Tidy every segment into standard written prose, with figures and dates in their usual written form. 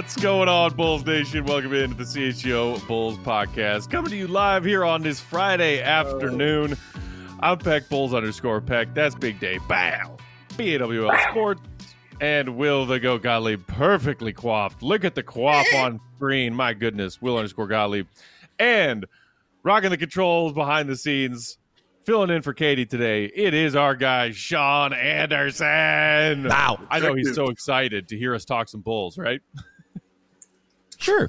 What's going on, Bulls Nation? Welcome into the CHGO Bulls podcast. Coming to you live here on this Friday afternoon. I'm Peck, Bulls_Peck. That's Big Day. Bow. BAWL Sports. And Will the Go Gottlieb, perfectly coiffed. Look at the coif on screen. My goodness. Will_Gottlieb. And rocking the controls behind the scenes. Filling in for Katie today, it is our guy, Sean Anderson. Wow. I know he's so excited to hear us talk some Bulls, right? Sure.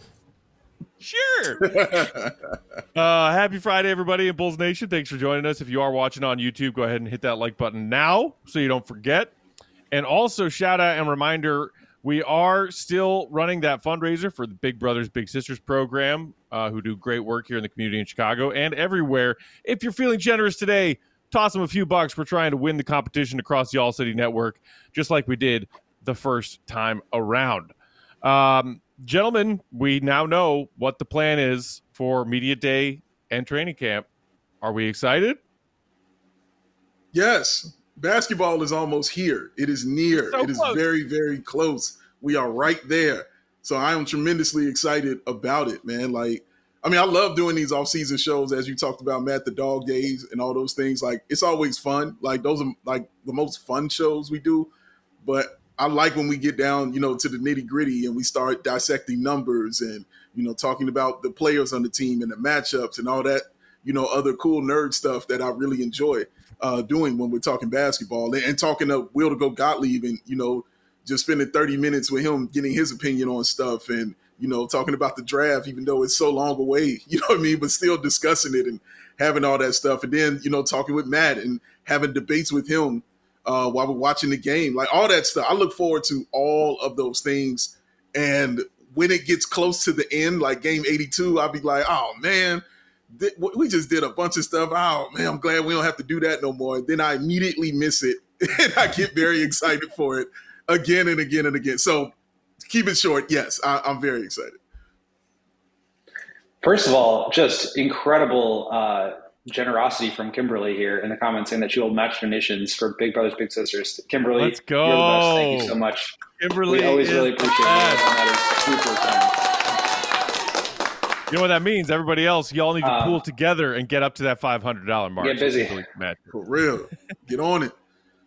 Happy Friday, everybody in Bulls Nation. Thanks for joining us. If you are watching on YouTube, go ahead and hit that like button now so you don't forget. And also, shout out and reminder, we are still running that fundraiser for the Big Brothers Big Sisters program, who do great work here in the community in Chicago and everywhere. If you're feeling generous today, toss them a few bucks. We're trying to win the competition across the All City Network, just like we did the first time around. Gentlemen, we now know what the plan is for Media Day and training camp. Are we excited? Yes. Basketball is almost here. It is near. So it is close. very, very close. We are right there. So I am tremendously excited about it, man. I love doing these off-season shows, as you talked about, Matt, the dog days and all those things. It's always fun. Those are the most fun shows we do. But I like when we get down, to the nitty-gritty and we start dissecting numbers and, talking about the players on the team and the matchups and all that, other cool nerd stuff that I really enjoy doing when we're talking basketball and talking to Will the Go Gottlieb and, just spending 30 minutes with him, getting his opinion on stuff and, talking about the draft, even though it's so long away, but still discussing it and having all that stuff. And then, talking with Matt and having debates with him while we're watching the game, all that stuff. I look forward to all of those things. And when it gets close to the end, like game 82, I'll be like, oh, man, we just did a bunch of stuff. Oh, man, I'm glad we don't have to do that no more. And then I immediately miss it. And I get very excited for it again and again and again. So keep it short. Yes, I'm very excited. First of all, just incredible generosity from Kimberly here in the comments saying that she will match donations for Big Brothers Big Sisters. Kimberly, Let's go. You're the best. Thank you so much. Kimberly, we always really appreciate it. And that is super kind. You know what that means? Everybody else, y'all need to pool together and get up to that $500 mark. Get busy. For real. Get on it.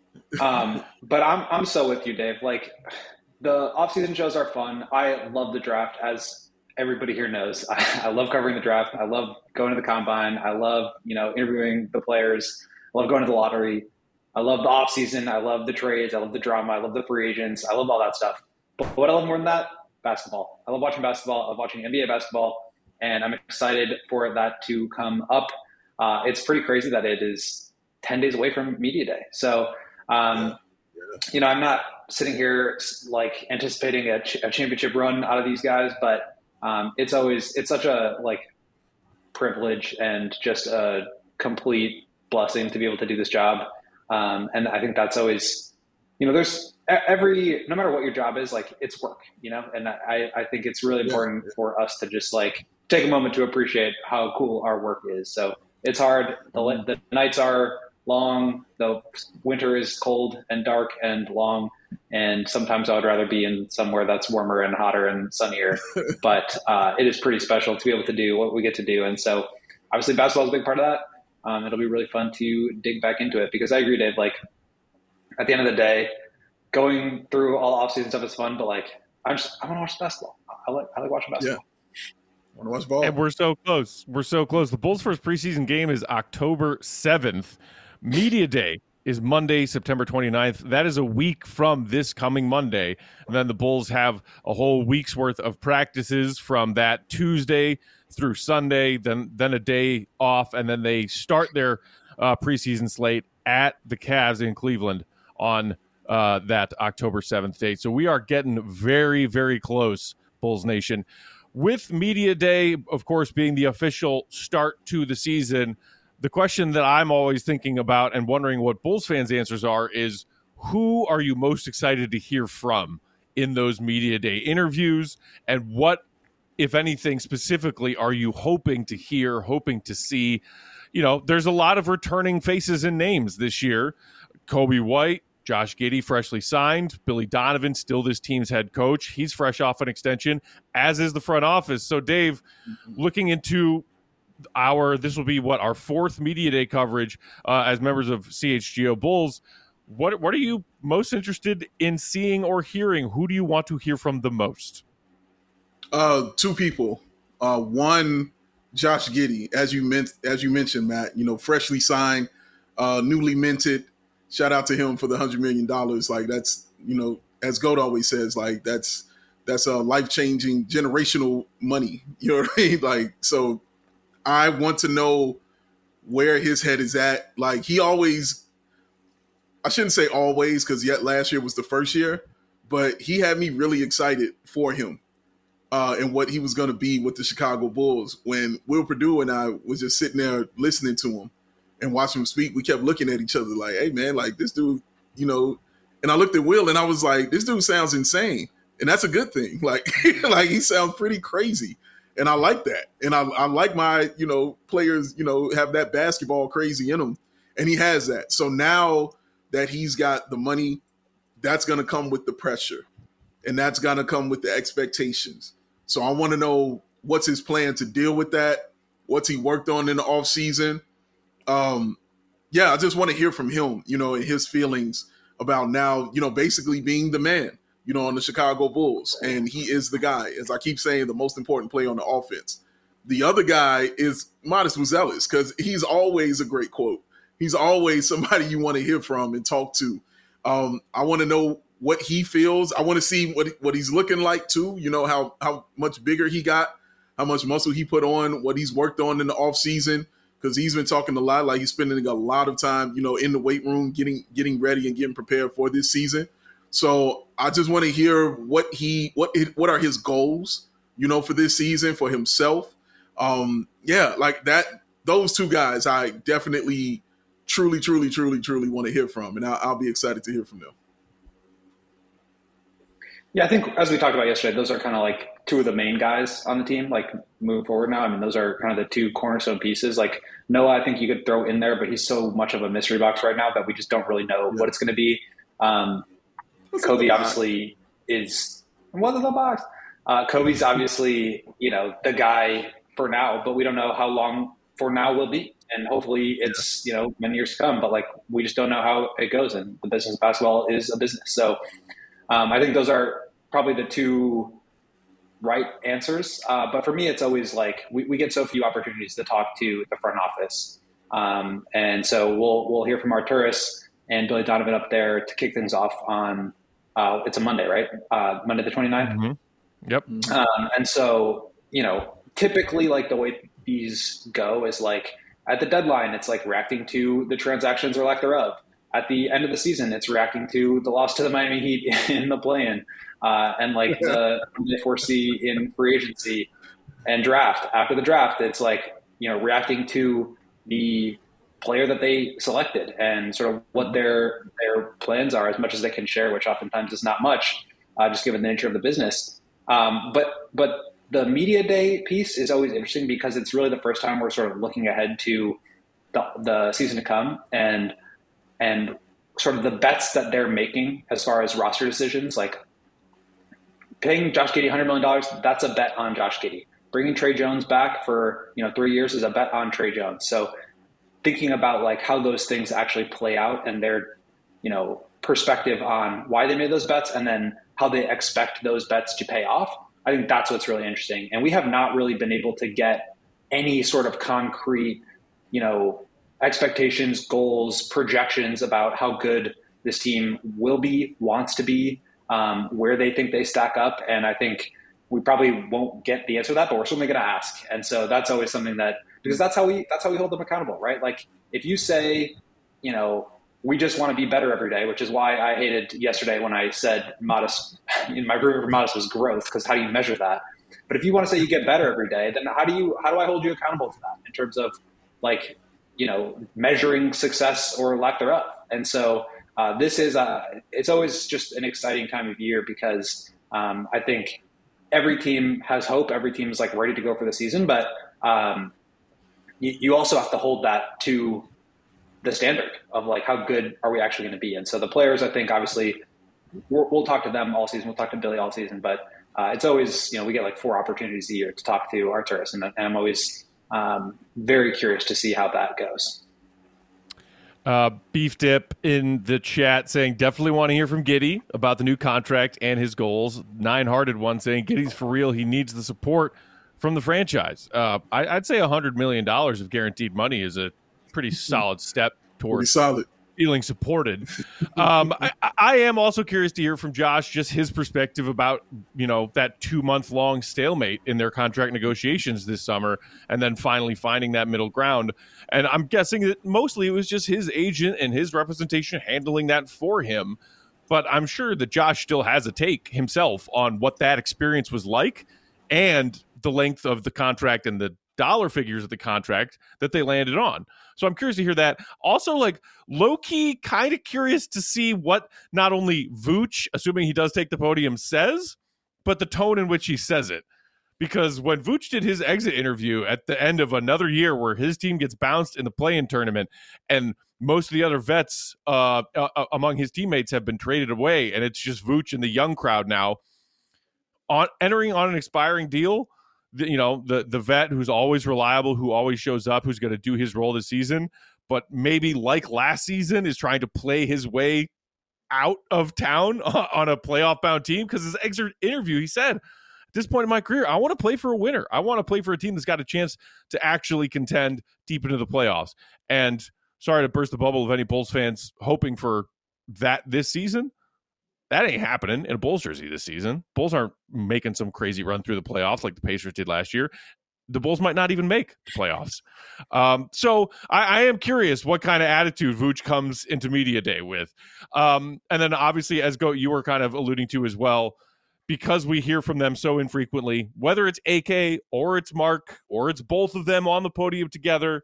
But I'm so with you, Dave. The off-season shows are fun. I love the draft, as everybody here knows. I love covering the draft. I love going to the combine. I love, interviewing the players. I love going to the lottery. I love the off-season. I love the trades. I love the drama. I love the free agents. I love all that stuff. But what I love more than that, basketball. I love watching basketball. I love watching NBA basketball. And I'm excited for that to come up. It's pretty crazy that it is 10 days away from Media Day. So, I'm not sitting here anticipating a championship run out of these guys, but it's such a privilege and just a complete blessing to be able to do this job. And I think that's always, there's no matter what your job is, it's work, and I think it's really important for us to just take a moment to appreciate how cool our work is. So it's hard. The nights are long. The winter is cold and dark and long. And sometimes I would rather be in somewhere that's warmer and hotter and sunnier. But it is pretty special to be able to do what we get to do. And so obviously basketball is a big part of that. It'll be really fun to dig back into it because I agree, Dave, at the end of the day, going through all off-season stuff is fun, but I want to watch basketball. I like watching basketball. Yeah. I want to watch ball. And we're so close. We're so close. The Bulls' first preseason game is October 7th. Media Day is Monday, September 29th. That is a week from this coming Monday. And then the Bulls have a whole week's worth of practices from that Tuesday through Sunday, then a day off, and then they start their preseason slate at the Cavs in Cleveland on that October 7th date. So we are getting very, very close, Bulls Nation. With Media Day, of course, being the official start to the season, the question that I'm always thinking about and wondering what Bulls fans' answers are is, who are you most excited to hear from in those Media Day interviews? And what, if anything, specifically are you hoping to hear, hoping to see? There's a lot of returning faces and names this year. Kobe White, Josh Giddey freshly signed. Billy Donovan, still this team's head coach. He's fresh off an extension, as is the front office. So, Dave, looking into this will be our fourth media day coverage as members of CHGO Bulls. What are you most interested in seeing or hearing? Who do you want to hear from the most? Two people. One, Josh Giddey, as you mentioned, Matt. Freshly signed, newly minted. Shout out to him for the $100 million. Like, that's, as Goat always says, like, that's a life-changing generational money. You know what I mean? Like, so I want to know where his head is at. Like, he always, I shouldn't say always, because yet last year was the first year, but he had me really excited for him and what he was going to be with the Chicago Bulls. When Will Perdue and I was just sitting there listening to him and watching him speak, we kept looking at each other like, hey, man, like, this dude, and I looked at Will and I was like, this dude sounds insane. And that's a good thing. Like, like, he sounds pretty crazy. And I like that. And I like my, players, have that basketball crazy in them. And he has that. So now that he's got the money, that's going to come with the pressure. And that's going to come with the expectations. So I want to know what's his plan to deal with that. What's he worked on in the offseason? I just want to hear from him, and his feelings about now, basically being the man, on the Chicago Bulls. And he is the guy, as I keep saying, the most important player on the offense. The other guy is Modest Buzelis, because he's always a great quote. He's always somebody you want to hear from and talk to. I want to know what he feels. I want to see what he's looking like too. How much bigger he got, how much muscle he put on, what he's worked on in the off season, because he's been talking a lot, like he's spending a lot of time, in the weight room, getting ready and getting prepared for this season. So I just want to hear what are his goals, for this season for himself. Like that. Those two guys, I definitely, truly want to hear from, and I'll be excited to hear from them. Yeah, I think as we talked about yesterday, those are kind of like two of the main guys on the team, like moving forward now. I mean, those are kind of the two cornerstone pieces. Like Noah, I think you could throw in there, but he's so much of a mystery box right now that we just don't really know what it's going to be. Kobe obviously is what is the box? Kobe's obviously, the guy for now, but we don't know how long for now will be. And hopefully it's, many years to come, but like, we just don't know how it goes. And the business of basketball is a business. So I think those are probably the two right answers. But for me, it's always like, we get so few opportunities to talk to the front office. And so we'll hear from Arturas and Billy Donovan up there to kick things off on, it's a Monday, right? Monday the 29th. Mm-hmm. Yep. And so, typically like the way these go is like at the deadline, it's like reacting to the transactions or lack thereof. At the end of the season, it's reacting to the loss to the Miami Heat in the play-in and like the they foresee in free agency and draft. After the draft, it's like, reacting to the player that they selected and sort of what their plans are as much as they can share, which oftentimes is not much, just given the nature of the business. But the media day piece is always interesting because it's really the first time we're sort of looking ahead to the season to come and sort of the bets that they're making as far as roster decisions, like paying Josh Giddey $100 million, that's a bet on Josh Giddey. Bringing Trey Jones back for 3 years is a bet on Trey Jones. So thinking about like how those things actually play out and their perspective on why they made those bets and then how they expect those bets to pay off, I think that's what's really interesting. And we have not really been able to get any sort of concrete, expectations, goals, projections about how good this team will be, wants to be, where they think they stack up. And I think we probably won't get the answer to that, but we're certainly going to ask. And so that's always something because that's how we hold them accountable, right? Like if you say, we just want to be better every day, which is why I hated yesterday when I said Modest, my room for Modest was growth, because how do you measure that? But if you want to say you get better every day, then how do I hold you accountable to that in terms of like, measuring success or lack thereof? And so this is it's always just an exciting time of year because I think every team has hope. Every team is like ready to go for the season, but you also have to hold that to the standard of like how good are we actually going to be. And so the players, I think, obviously, we'll talk to them all season. We'll talk to Billy all season, but it's always, we get like 4 opportunities a year to talk to Arturas, and I'm always very curious to see how that goes. Beef Dip in the chat saying definitely want to hear from Giddey about the new contract and his goals. Nine-hearted one saying Giddey's for real. He needs the support from the franchise. I'd say $100 million of guaranteed money is a pretty solid step towards feeling supported. I am also curious to hear from Josh, just his perspective about, that 2-month long stalemate in their contract negotiations this summer, and then finally finding that middle ground. And I'm guessing that mostly it was just his agent and his representation handling that for him. But I'm sure that Josh still has a take himself on what that experience was like and the length of the contract and the dollar figures of the contract that they landed on. So I'm curious to hear that. Also, like, low-key kind of curious to see what not only Vooch, assuming he does take the podium, says, but the tone in which he says it. Because when Vooch did his exit interview at the end of another year where his team gets bounced in the play-in tournament and most of the other vets among his teammates have been traded away, and it's just Vooch and the young crowd now entering on an expiring deal, the vet who's always reliable, who always shows up, who's going to do his role this season, but maybe like last season is trying to play his way out of town on a playoff-bound team. Because his exit interview, he said, at this point in my career, I want to play for a winner. I want to play for a team that's got a chance to actually contend deep into the playoffs. And sorry to burst the bubble of any Bulls fans hoping for that this season. That ain't happening in a Bulls jersey this season. Bulls aren't making some crazy run through the playoffs like the Pacers did last year. The Bulls might not even make the playoffs. So I am curious what kind of attitude Vooch comes into media day with. And then obviously, as Goat, you were kind of alluding to as well, because we hear from them so infrequently, whether it's AK or it's Mark or it's both of them on the podium together,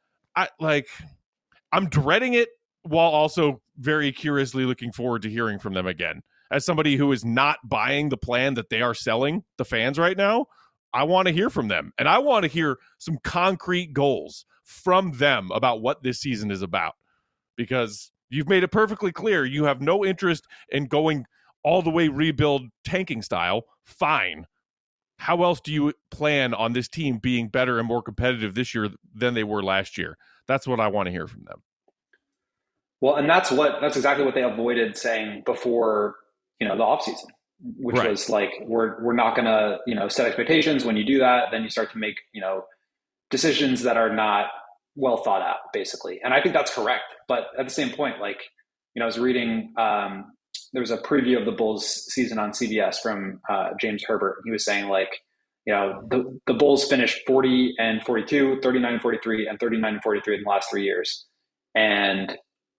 I'm dreading it, while also very curiously looking forward to hearing from them again. As somebody who is not buying the plan that they are selling the fans right now, I want to hear from them. And I want to hear some concrete goals from them about what this season is about. Because you've made it perfectly clear you have no interest in going all the way rebuild tanking style. Fine. How else do you plan on this team being better and more competitive this year than they were last year? That's what I want to hear from them. Well, and that's exactly what they avoided saying before, the offseason, which was like, we're not going to, set expectations. When you do that, then you start to make, decisions that are not well thought out, basically. And I think that's correct. But at the same point, I was reading, there was a preview of the Bulls season on CBS from James Herbert. He was saying the Bulls finished 40-42, 39-43, and 39-43 in the last 3 years. And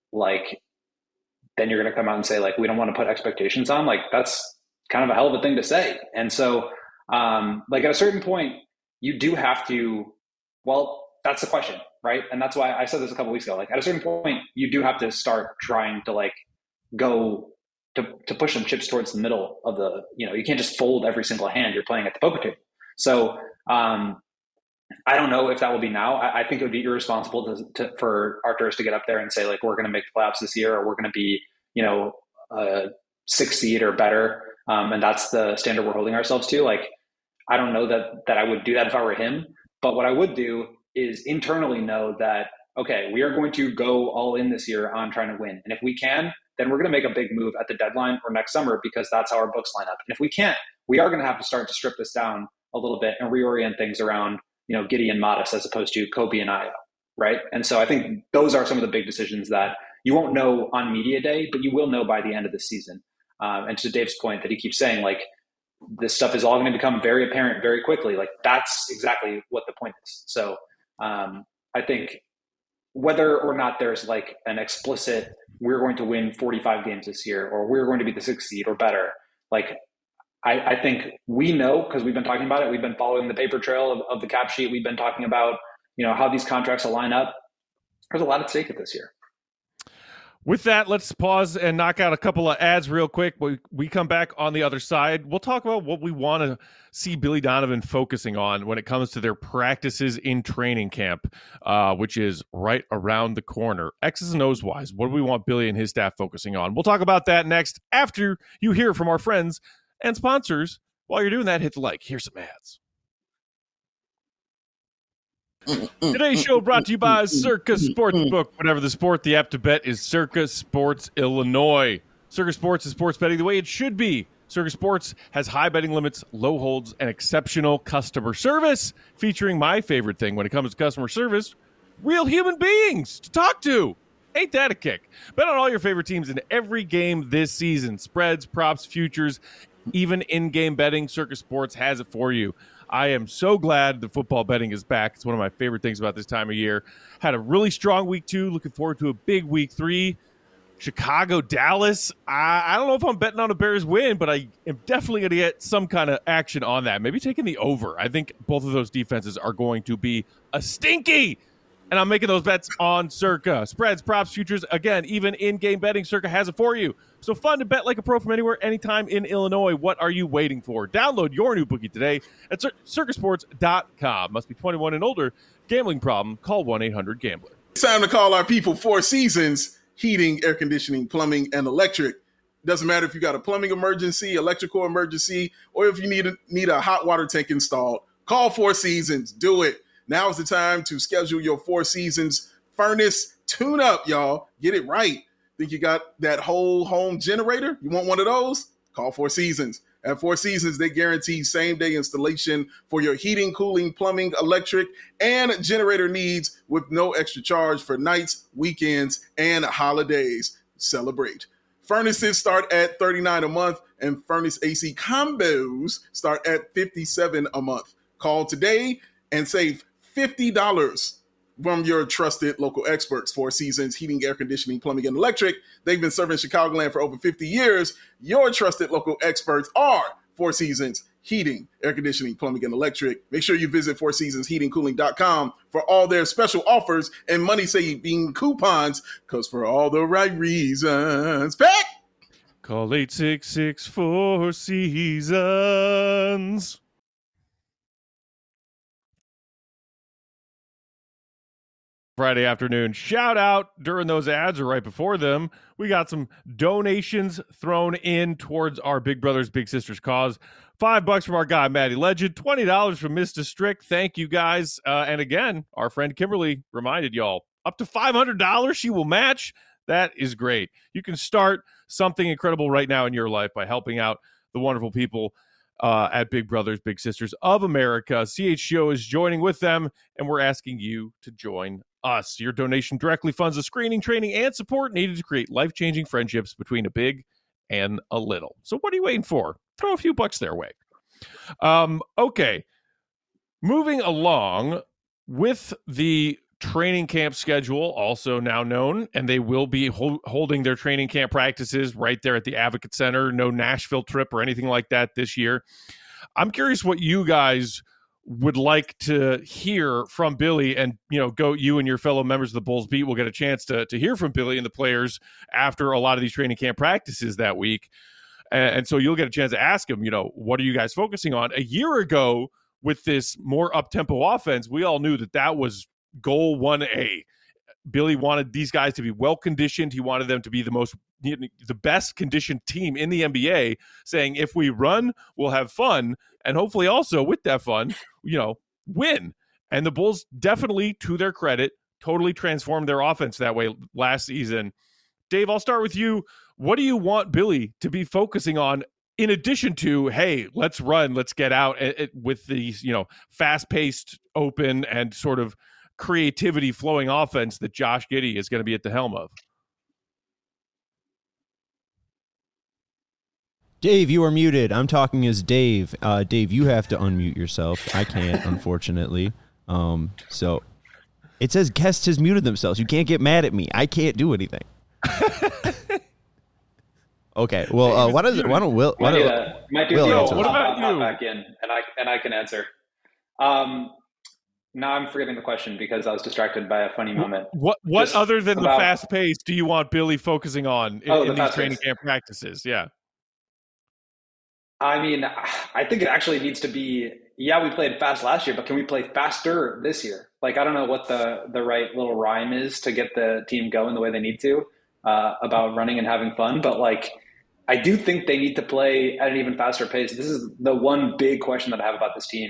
then you're going to come out and say, we don't want to put expectations on. That's kind of a hell of a thing to say. And so, at a certain point, you do have to, that's the question, right? And that's why I said this a couple weeks ago. At a certain point, you do have to start trying to, go to push some chips towards the middle of the, you can't just fold every single hand you're playing at the poker table. So, I don't know if that will be now. I think it would be irresponsible for Arturas to get up there and say, we're going to make the playoffs this year, or we're going to be, a 6th seed or better. And that's the standard we're holding ourselves to. I don't know that I would do that if I were him. But what I would do is internally know that, okay, we are going to go all in this year on trying to win. And if we can, then we're going to make a big move at the deadline or next summer, because that's how our books line up. And if we can't, we are going to have to start to strip this down a little bit and reorient things around Giddey and Modest as opposed to Kobe and Ayo, right? And so I think those are some of the big decisions that you won't know on media day, but you will know by the end of the season. And to Dave's point that he keeps saying, this stuff is all going to become very apparent very quickly. That's exactly what the point is. So I think whether or not there's an explicit, we're going to win 45 games this year, or we're going to be the 6th seed or better, I think we know, because we've been talking about it. We've been following the paper trail of the cap sheet. We've been talking about, how these contracts will line up. There's a lot at stake at this year. With that, let's pause and knock out a couple of ads real quick. We come back on the other side. We'll talk about what we want to see Billy Donovan focusing on when it comes to their practices in training camp, which is right around the corner. X's and O's wise, what do we want Billy and his staff focusing on? We'll talk about that next after you hear from our friends and sponsors. While you're doing that, hit the like. Here's some ads. Today's show brought to you by Circa Sportsbook. Whatever the sport, the app to bet is Circa Sports Illinois. Circa Sports is sports betting the way it should be. Circa Sports has high betting limits, low holds, and exceptional customer service, featuring my favorite thing when it comes to customer service, real human beings to talk to. Ain't that a kick? Bet on all your favorite teams in every game this season. Spreads, props, futures, even in-game betting, Circa Sports has it for you. I am so glad that football betting is back. It's one of my favorite things about this time of year. Had a really strong week 2. Looking forward to a big week 3. Chicago, Dallas. I don't know if I'm betting on a Bears win, but I am definitely going to get some kind of action on that. Maybe taking the over. I think both of those defenses are going to be a stinky. And I'm making those bets on Circa. Spreads, props, futures, again, even in-game betting, Circa has it for you. So fun to bet like a pro from anywhere, anytime in Illinois. What are you waiting for? Download your new bookie today at circasports.com. Must be 21 and older. Gambling problem? Call 1-800-GAMBLER. It's time to call our people. Four Seasons Heating, Air Conditioning, Plumbing, and Electric. Doesn't matter if you got a plumbing emergency, electrical emergency, or if you need a hot water tank installed. Call Four Seasons. Do it. Now is the time to schedule your Four Seasons furnace tune-up, y'all. Get it right. Think you got that whole home generator? You want one of those? Call Four Seasons. At Four Seasons, they guarantee same-day installation for your heating, cooling, plumbing, electric, and generator needs with no extra charge for nights, weekends, and holidays. Celebrate. Furnaces start at $39 a month, and furnace AC combos start at $57 a month. Call today and save $50 from your trusted local experts. Four Seasons Heating, Air Conditioning, Plumbing, and Electric. They've been serving Chicagoland for over 50 years. Your trusted local experts are Four Seasons Heating, Air Conditioning, Plumbing, and Electric. Make sure you visit FourSeasonsHeatingCooling.com for all their special offers and money-saving coupons, because for all the right reasons. Back! Call 866-4 Seasons. Friday afternoon shout out during those ads or right before them. We got some donations thrown in towards our Big Brothers Big Sisters cause. $5 from our guy Maddie Legend, $20 from Mr. Strick. Thank you guys. And again, our friend Kimberly reminded y'all, up to $500 she will match. That is great. You can start something incredible right now in your life by helping out the wonderful people at Big Brothers Big Sisters of America. CHGO is joining with them, and we're asking you to join us. Your donation directly funds the screening, training, and support needed to create life-changing friendships between a big and a little. So what are you waiting for? Throw a few bucks their way. Okay. Moving along with the training camp schedule, also now known, and they will be holding their training camp practices right there at the Advocate Center. No Nashville trip or anything like that this year. I'm curious what you guys would like to hear from Billy, and you and your fellow members of the Bulls Beat will get a chance to hear from Billy and the players after a lot of these training camp practices that week. And so you'll get a chance to ask him, what are you guys focusing on? A year ago, with this more up-tempo offense, we all knew that was goal 1A. Billy wanted these guys to be well-conditioned. He wanted them to be the best conditioned team in the NBA, saying if we run, we'll have fun. And hopefully also with that fun, win. And the Bulls definitely, to their credit, totally transformed their offense that way last season. Dave, I'll start with you. What do you want Billy to be focusing on in addition to, hey, let's run, let's get out with these, fast-paced, open, and sort of creativity flowing offense that Josh Giddey is going to be at the helm of? Dave, you are muted. I'm talking as Dave. Dave, you have to unmute yourself. I can't, unfortunately. So it says guests has muted themselves. You can't get mad at me. I can't do anything. Okay. Well, why don't Will? Might do Will, the what about you? Back in, and I can answer. Now I'm forgetting the question because I was distracted by a funny moment. What Just other than about- the fast pace do you want Billy focusing on in these fast training pace. camp practices? Yeah. I mean, I think it actually needs to be, we played fast last year, but can we play faster this year? Like, I don't know what the right little rhyme is to get the team going the way they need to about running and having fun. But, like, I do think they need to play at an even faster pace. This is the one big question that I have about this team,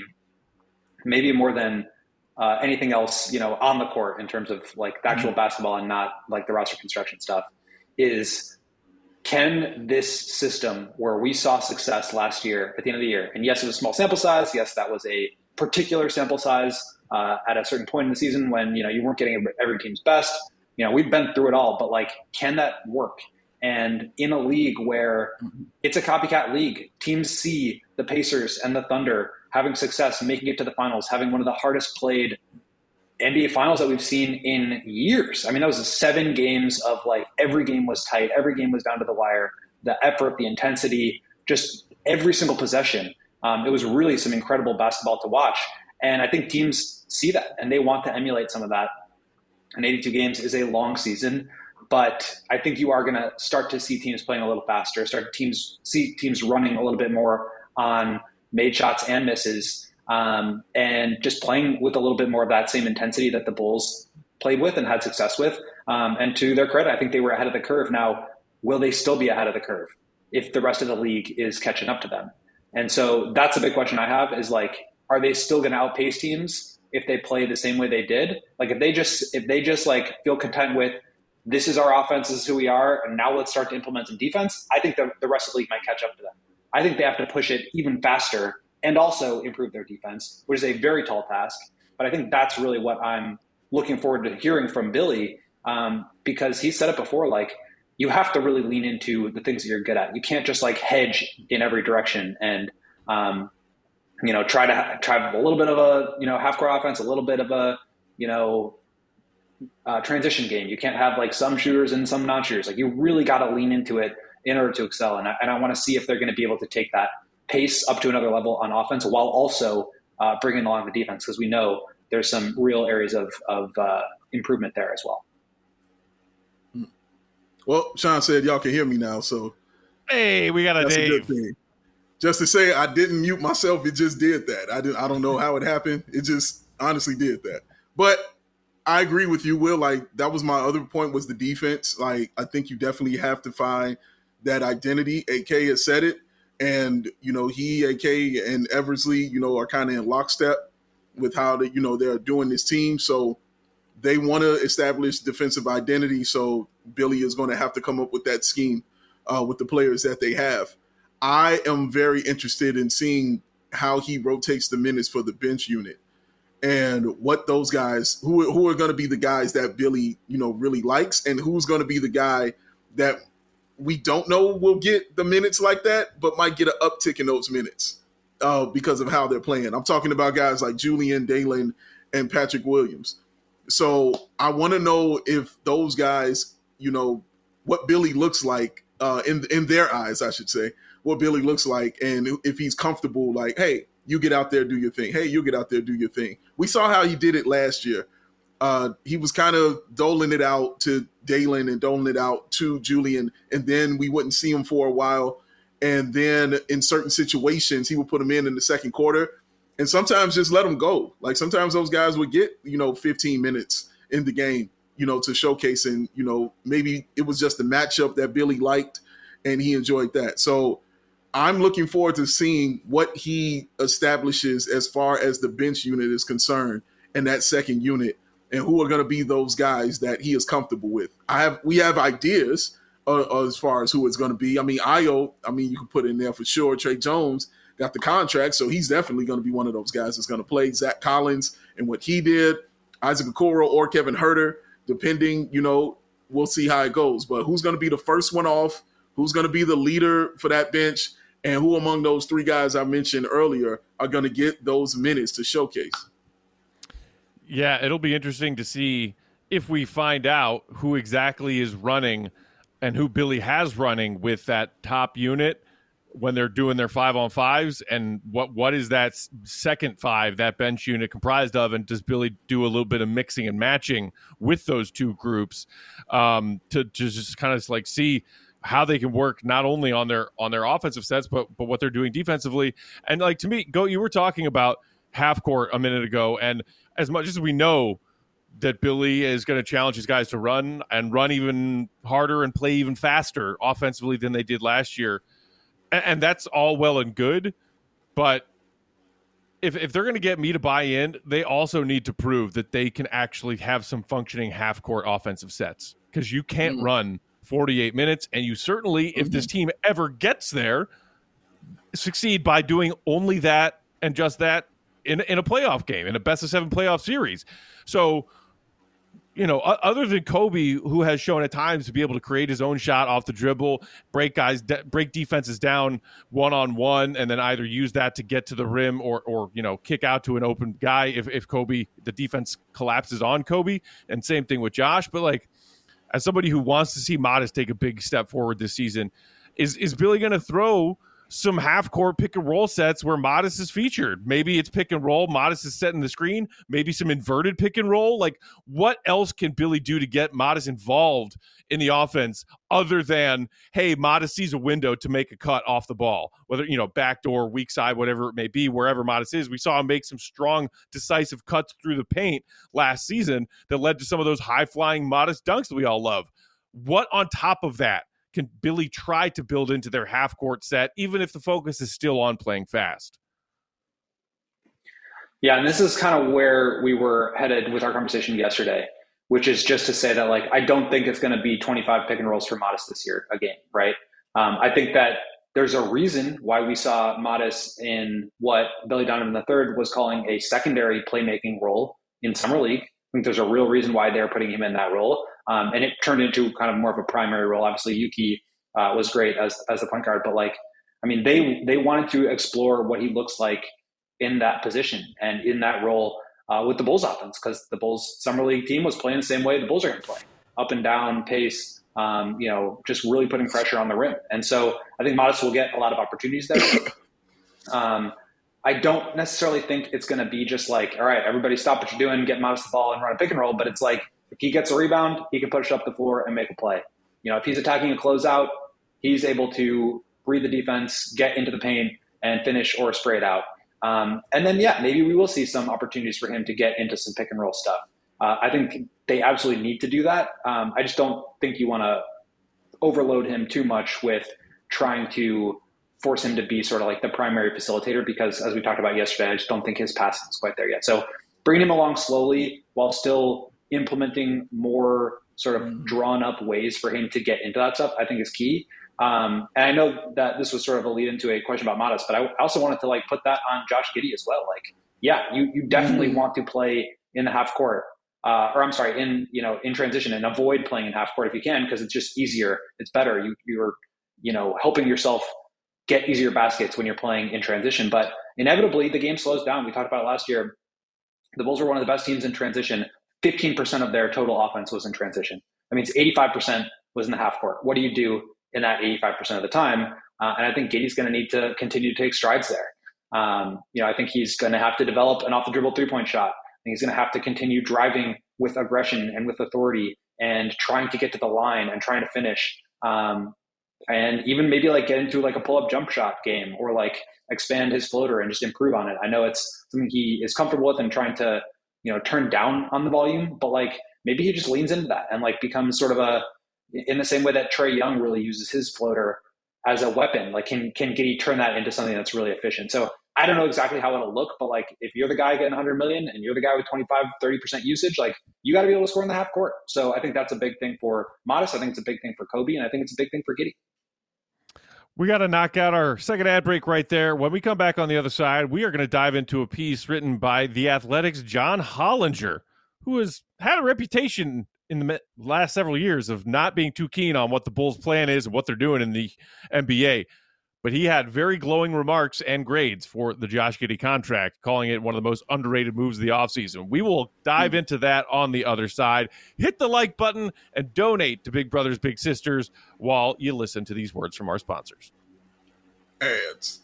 maybe more than anything else, on the court in terms of, like, the actual basketball and not, like, the roster construction stuff, is – can this system where we saw success last year at the end of the year, and yes, it was a small sample size. Yes, that was a particular sample size at a certain point in the season when, you weren't getting every team's best. We've been through it all, but like, can that work? And in a league where it's a copycat league, teams see the Pacers and the Thunder having success, making it to the finals, having one of the hardest played NBA finals that we've seen in years. I mean, that was 7 games of like every game was tight. Every game was down to the wire. The effort, the intensity, just every single possession. It was really some incredible basketball to watch. And I think teams see that and they want to emulate some of that. And 82 games is a long season, but I think you are going to start to see teams playing a little faster, see teams running a little bit more on made shots and misses. And just playing with a little bit more of that same intensity that the Bulls played with and had success with. And to their credit, I think they were ahead of the curve. Now, will they still be ahead of the curve if the rest of the league is catching up to them? And so that's a big question I have is like, are they still going to outpace teams if they play the same way they did? Like if they just like feel content with this is our offense, this is who we are, and now let's start to implement some defense, I think the rest of the league might catch up to them. I think they have to push it even faster and also improve their defense, which is a very tall task. But I think that's really what I'm looking forward to hearing from Billy, because he said it before, like, you have to really lean into the things that you're good at. You can't just like hedge in every direction and, try to have a little bit of a, half-court offense, a little bit of a, transition game. You can't have like some shooters and some non-shooters. Like you really got to lean into it in order to excel. And I want to see if they're going to be able to take that pace up to another level on offense while also bringing along the defense, because we know there's some real areas of improvement there as well. Well, Sean said y'all can hear me now, so hey, we got that's Dave. a good thing. Just to say, I didn't mute myself; it just did that. I don't know how it happened. It just honestly did that. But I agree with you, Will. Like that was my other point was the defense. Like I think you definitely have to find that identity. AK has said it. And, he, AK, and Eversley, are kind of in lockstep with how they're doing this team. So they want to establish defensive identity. So Billy is going to have to come up with that scheme with the players that they have. I am very interested in seeing how he rotates the minutes for the bench unit and what those guys, who are going to be the guys that Billy, really likes, and who's going to be the guy that we don't know will get the minutes like that, but might get an uptick in those minutes because of how they're playing. I'm talking about guys like Julian, Dalen, and Patrick Williams. So I want to know if those guys, what Billy looks like in their eyes, I should say, what Billy looks like, and if he's comfortable, like, hey, you get out there, do your thing. Hey, you get out there, do your thing. We saw how he did it last year. He was kind of doling it out to Dalen and doling it out to Julian, and then we wouldn't see him for a while. And then in certain situations, he would put him in the second quarter and sometimes just let him go. Like sometimes those guys would get, 15 minutes in the game, to showcase. And, maybe it was just the matchup that Billy liked and he enjoyed that. So I'm looking forward to seeing what he establishes as far as the bench unit is concerned and that second unit. And who are going to be those guys that he is comfortable with? We have ideas as far as who it's going to be. I mean, Ayo, you can put in there for sure. Trey Jones got the contract, so he's definitely going to be one of those guys that's going to play. Zach Collins and what he did, Isaac Okoro or Kevin Huerter, depending, we'll see how it goes. But who's going to be the first one off? Who's going to be the leader for that bench? And who among those 3 guys I mentioned earlier are going to get those minutes to showcase? Yeah, it'll be interesting to see if we find out who exactly is running and who Billy has running with that top unit, when they're doing their 5-on-5s, and what is that second five, that bench unit comprised of, and does Billy do a little bit of mixing and matching with those two groups to just kind of like see how they can work not only on their offensive sets, but what they're doing defensively. And like, to me, you were talking about half court a minute ago, and as much as we know that Billy is going to challenge his guys to run even harder and play even faster offensively than they did last year, and that's all well and good, but if they're going to get me to buy in, they also need to prove that they can actually have some functioning half-court offensive sets, because you can't run 48 minutes, and you certainly, if this team ever gets there, succeed by doing only that and just that in a playoff game, in a best-of-7 playoff series. So, other than Kobe, who has shown at times to be able to create his own shot off the dribble, break defenses down one-on-one, and then either use that to get to the rim or kick out to an open guy if Kobe, the defense collapses on Kobe, and same thing with Josh. But like, as somebody who wants to see Modest take a big step forward this season, is Billy going to throw some half-court pick-and-roll sets where Modest is featured? Maybe it's pick-and-roll, Modest is setting the screen, maybe some inverted pick-and-roll. Like, what else can Billy do to get Modest involved in the offense other than, hey, Modest sees a window to make a cut off the ball, whether, backdoor, weak side, whatever it may be, wherever Modest is. We saw him make some strong, decisive cuts through the paint last season that led to some of those high-flying Modest dunks that we all love. What on top of that can Billy try to build into their half-court set, even if the focus is still on playing fast? Yeah, and this is kind of where we were headed with our conversation yesterday, which is just to say that, like, I don't think it's going to be 25 pick and rolls for Modest this year a game, right? I think that there's a reason why we saw Modest in what Billy Donovan III was calling a secondary playmaking role in Summer League. I think there's a real reason why they're putting him in that role. And it turned into kind of more of a primary role. Obviously, Yuki was great as the point guard, but they wanted to explore what he looks like in that position and in that role with the Bulls offense, because the Bulls Summer League team was playing the same way the Bulls are going to play, up and down pace, just really putting pressure on the rim. And so I think Modest will get a lot of opportunities there. I don't necessarily think it's going to be just like, all right, everybody stop what you're doing, get Modest the ball and run a pick and roll. But it's like, if he gets a rebound, he can push up the floor and make a play. If he's attacking a closeout, he's able to read the defense, get into the paint, and finish or spray it out. And then, maybe we will see some opportunities for him to get into some pick and roll stuff. I think they absolutely need to do that. I just don't think you want to overload him too much with trying to force him to be sort of like the primary facilitator, because as we talked about yesterday, I just don't think his passing is quite there yet. So bringing him along slowly while still implementing more sort of drawn up ways for him to get into that stuff, I think is key. And I know that this was sort of a lead into a question about Modest, but I also wanted to put that on Josh Giddey as well. You definitely want to play in the half court, in transition, and avoid playing in half court if you can, because it's just easier. It's better. You're helping yourself get easier baskets when you're playing in transition. But inevitably, the game slows down. We talked about it last year. The Bulls were one of the best teams in transition. 15% of their total offense was in transition. That means 85% was in the half court. What do you do in that 85% of the time? And I think Giddey's going to need to continue to take strides there. I think he's going to have to develop an off-the-dribble three-point shot. I think he's going to have to continue driving with aggression and with authority and trying to get to the line and trying to finish. And even maybe get into a pull-up jump shot game, or expand his floater and just improve on it. I know it's something he is comfortable with and trying to, turn down on the volume, but maybe he just leans into that and becomes sort of in the same way that Trae Young really uses his floater as a weapon. Can Giddey turn that into something that's really efficient? So I don't know exactly how it'll look, but if you're the guy getting 100 million and you're the guy with 25-30% usage, you got to be able to score in the half court. So I think that's a big thing for Modest. I think it's a big thing for Kobe, and I think it's a big thing for Giddey. We got to knock out our second ad break right there. When we come back on the other side, we are going to dive into a piece written by The Athletic's John Hollinger, who has had a reputation in the last several years of not being too keen on what the Bulls' plan is and what they're doing in the NBA. But he had very glowing remarks and grades for the Josh Giddey contract, calling it one of the most underrated moves of the offseason. We will dive into that on the other side. Hit the like button and donate to Big Brothers Big Sisters while you listen to these words from our sponsors. ads.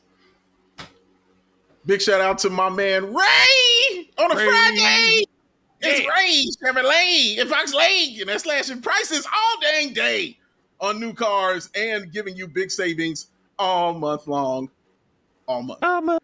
Big shout out to my man Ray on a Friday. It's Ray Chevrolet in Fox Lake, and they're slashing prices all dang day on new cars and giving you big savings all month long. All month.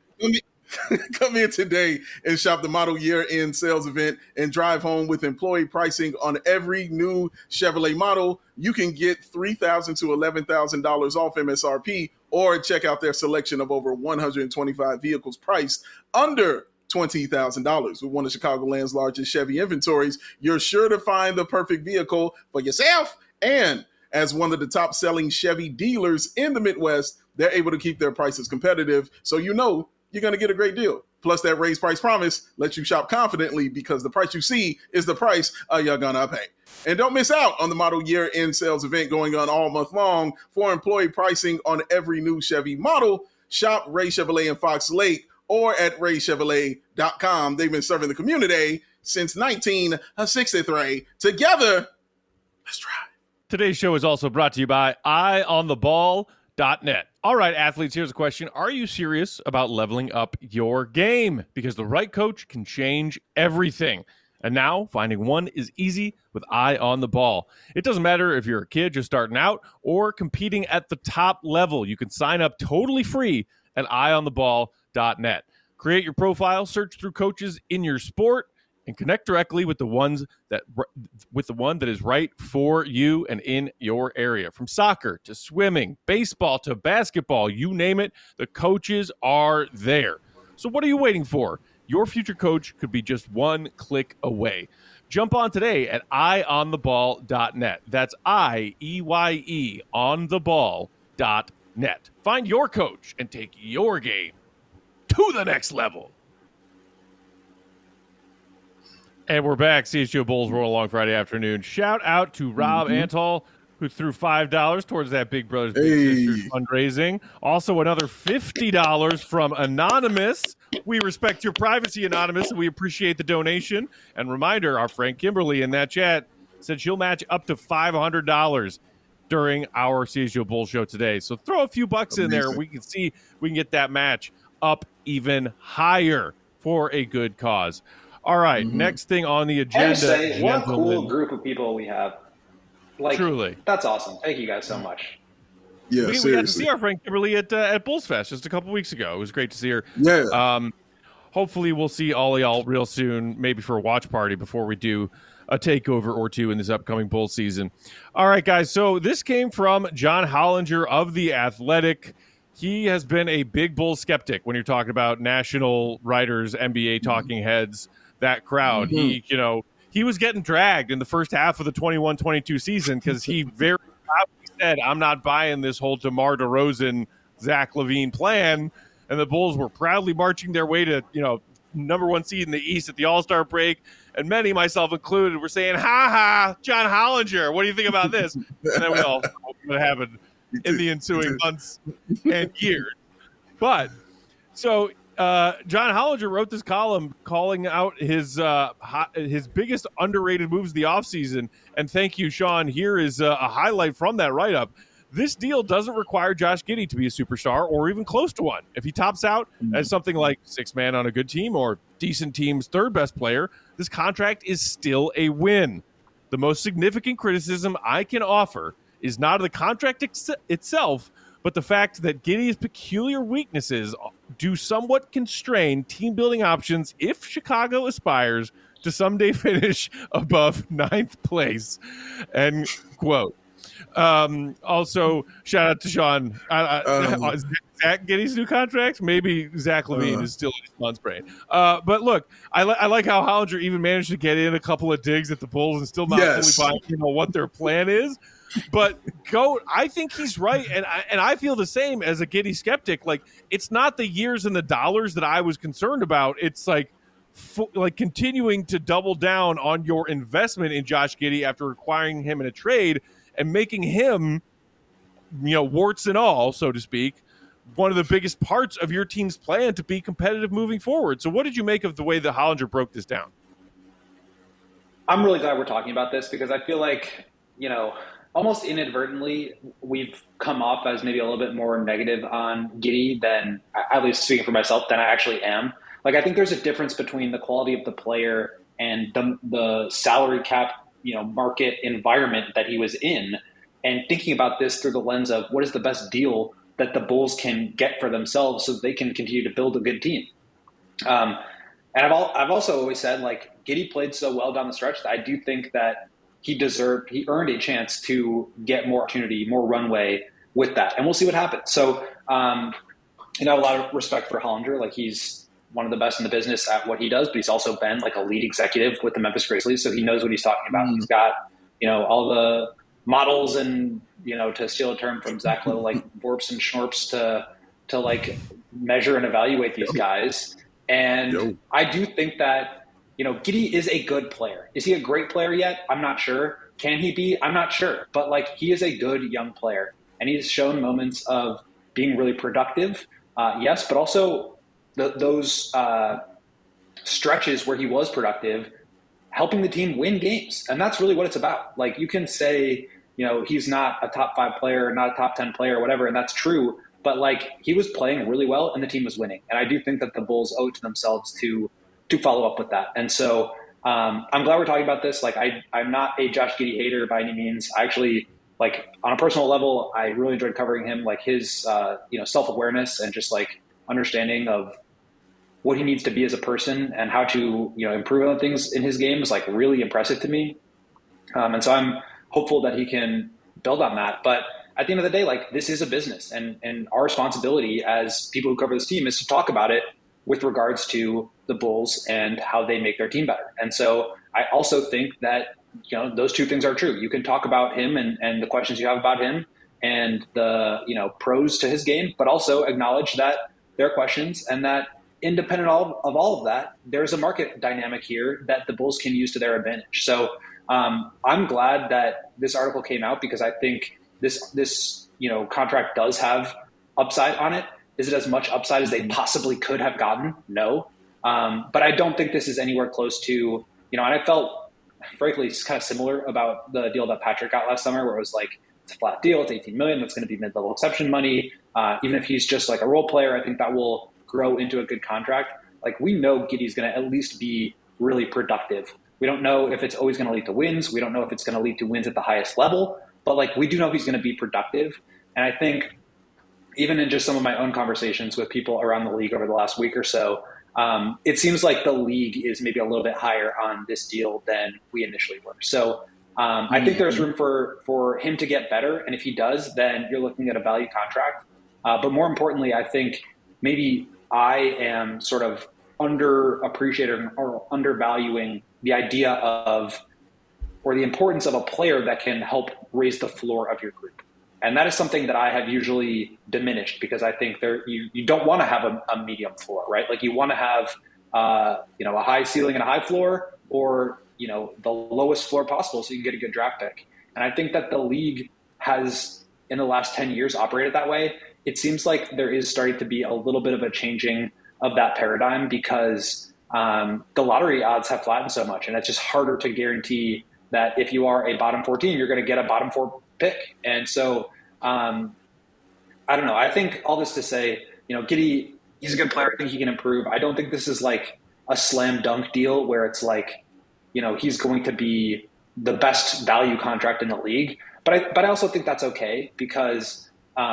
Come in today and shop the model year-end sales event and drive home with employee pricing on every new Chevrolet model. You can get $3,000 to $11,000 off MSRP, or check out their selection of over 125 vehicles priced under $20,000. With one of Chicagoland's largest Chevy inventories, you're sure to find the perfect vehicle for yourself. And as one of the top-selling Chevy dealers in the Midwest, they're able to keep their prices competitive, so you know you're going to get a great deal. Plus, that raised price promise lets you shop confidently because the price you see is the price you're going to pay. And don't miss out on the model year-end sales event going on all month long. For employee pricing on every new Chevy model, shop Ray Chevrolet in Fox Lake or at raychevrolet.com. They've been serving the community since 1963. Together, let's try. Today's show is also brought to you by EyeOnTheBall.net. All right, athletes, here's a question. Are you serious about leveling up your game? Because the right coach can change everything. And now, finding one is easy with Eye on the Ball. It doesn't matter if you're a kid just starting out or competing at the top level. You can sign up totally free at EyeOnTheBall.net. Create your profile, search through coaches in your sport, and connect directly with the one that is right for you and in your area. From soccer to swimming, baseball to basketball, you name it, the coaches are there. So what are you waiting for? Your future coach could be just one click away. Jump on today at EyeOnTheBall.net. That's IEYE on the ball.net. Find your coach and take your game to the next level. And we're back. CHGO Bulls roll along Friday afternoon. Shout out to Rob Antall, who threw $5 towards that Big Brothers Big Sisters fundraising. Also, another $50 from Anonymous. We respect your privacy, Anonymous, and we appreciate the donation. And reminder, our friend Kimberly in that chat said she'll match up to $500 during our CHGO Bulls show today. So throw a few bucks in there. We can see we can get that match up even higher for a good cause. All right, next thing on the agenda. Say, what a cool group of people we have. Like, truly. That's awesome. Thank you guys so much. Yeah, we got to see our friend Kimberly at Bulls Fest just a couple weeks ago. It was great to see her. Yeah. Hopefully we'll see all of y'all real soon, maybe for a watch party before we do a takeover or two in this upcoming Bulls season. All right, guys, so this came from John Hollinger of The Athletic. He has been a big Bulls skeptic when you're talking about national writers, NBA talking heads, that crowd. He was getting dragged in the first half of the 21-22 season because he very proudly said, I'm not buying this whole DeMar DeRozan, Zach LaVine plan. And the Bulls were proudly marching their way to, number one seed in the East at the All-Star break. And many, myself included, were saying, ha, John Hollinger, what do you think about this? And then we all know what happened in the ensuing months and years. But, so John Hollinger wrote this column calling out his biggest underrated moves of the offseason. And thank you, Sean. Here is a highlight from that write-up. This deal doesn't require Josh Giddey to be a superstar or even close to one. If he tops out as something like sixth man on a good team or decent team's third best player, this contract is still a win. The most significant criticism I can offer is not the contract itself, but the fact that Giddey's peculiar weaknesses do somewhat constrain team-building options if Chicago aspires to someday finish above ninth place. End quote. Also, shout out to Sean. Zach Giddey's new contract? Maybe Zach LaVine is still in his month's brain. But look, I like how Hollinger even managed to get in a couple of digs at the Bulls and still not fully buying what their plan is. But I think he's right, and I feel the same as a Giddey skeptic. Like, it's not the years and the dollars that I was concerned about. It's like continuing to double down on your investment in Josh Giddey after acquiring him in a trade and making him, warts and all, so to speak, one of the biggest parts of your team's plan to be competitive moving forward. So what did you make of the way that Hollinger broke this down? I'm really glad we're talking about this because I feel like, almost inadvertently, we've come off as maybe a little bit more negative on Giddey than, at least speaking for myself, than I actually am. Like, I think there's a difference between the quality of the player and the salary cap, market environment that he was in, and thinking about this through the lens of what is the best deal that the Bulls can get for themselves so that they can continue to build a good team. And I've also always said, like, Giddey played so well down the stretch that I do think that he earned a chance to get more opportunity, more runway with that. And we'll see what happens. So, I have a lot of respect for Hollinger. Like, he's one of the best in the business at what he does, but he's also been like a lead executive with the Memphis Grizzlies. So he knows what he's talking about. He's got, all the models and, to steal a term from Zach Lowe, like Vorps and Schnorps to like measure and evaluate these guys. And I do think that, Giddey is a good player. Is he a great player yet? I'm not sure. Can he be? I'm not sure. But like, he is a good young player, and he's shown moments of being really productive. Yes, but also those stretches where he was productive, helping the team win games. And that's really what it's about. Like, you can say, he's not a top 5 player, not a top 10 player, whatever, and that's true. But like, he was playing really well and the team was winning. And I do think that the Bulls owe it to themselves to follow up with that. And so I'm glad we're talking about this. Like, I'm not a Josh Giddey hater by any means. I actually, like, on a personal level, I really enjoyed covering him. Like, his self-awareness and just like understanding of what he needs to be as a person and how to improve on things in his game is like really impressive to me. And so I'm hopeful that he can build on that. But at the end of the day, like, this is a business, and our responsibility as people who cover this team is to talk about it with regards to the Bulls and how they make their team better. And so I also think that, those two things are true. You can talk about him and the questions you have about him and the, pros to his game, but also acknowledge that there are questions, and that independent of all of that, there's a market dynamic here that the Bulls can use to their advantage. So I'm glad that this article came out, because I think this contract does have upside on it. Is it as much upside as they possibly could have gotten? No. But I don't think this is anywhere close to, and I felt, frankly, it's kind of similar about the deal that Patrick got last summer, where it was like, it's a flat deal. It's $18 million. That's going to be mid-level exception money. Even if he's just like a role player, I think that will grow into a good contract. Like, we know Giddey's going to at least be really productive. We don't know if it's always going to lead to wins. We don't know if it's going to lead to wins at the highest level, but like, we do know he's going to be productive. And I think even in just some of my own conversations with people around the league over the last week or so, it seems like the league is maybe a little bit higher on this deal than we initially were. So I think there's room for him to get better. And if he does, then you're looking at a value contract. But more importantly, I think maybe I am sort of underappreciating or undervaluing the idea of, or the importance of, a player that can help raise the floor of your group. And that is something that I have usually diminished, because I think you don't want to have a medium floor, right? Like, you want to have a high ceiling and a high floor, or the lowest floor possible, so you can get a good draft pick. And I think that the league has, in the last 10 years, operated that way. It seems like there is starting to be a little bit of a changing of that paradigm, because the lottery odds have flattened so much, and it's just harder to guarantee that if you are a bottom 14, you're going to get a bottom 4 pick. And so I don't know. I think all this to say, Giddey, he's a good player. I think he can improve. I don't think this is like a slam dunk deal where it's like, he's going to be the best value contract in the league. But I also think that's okay, because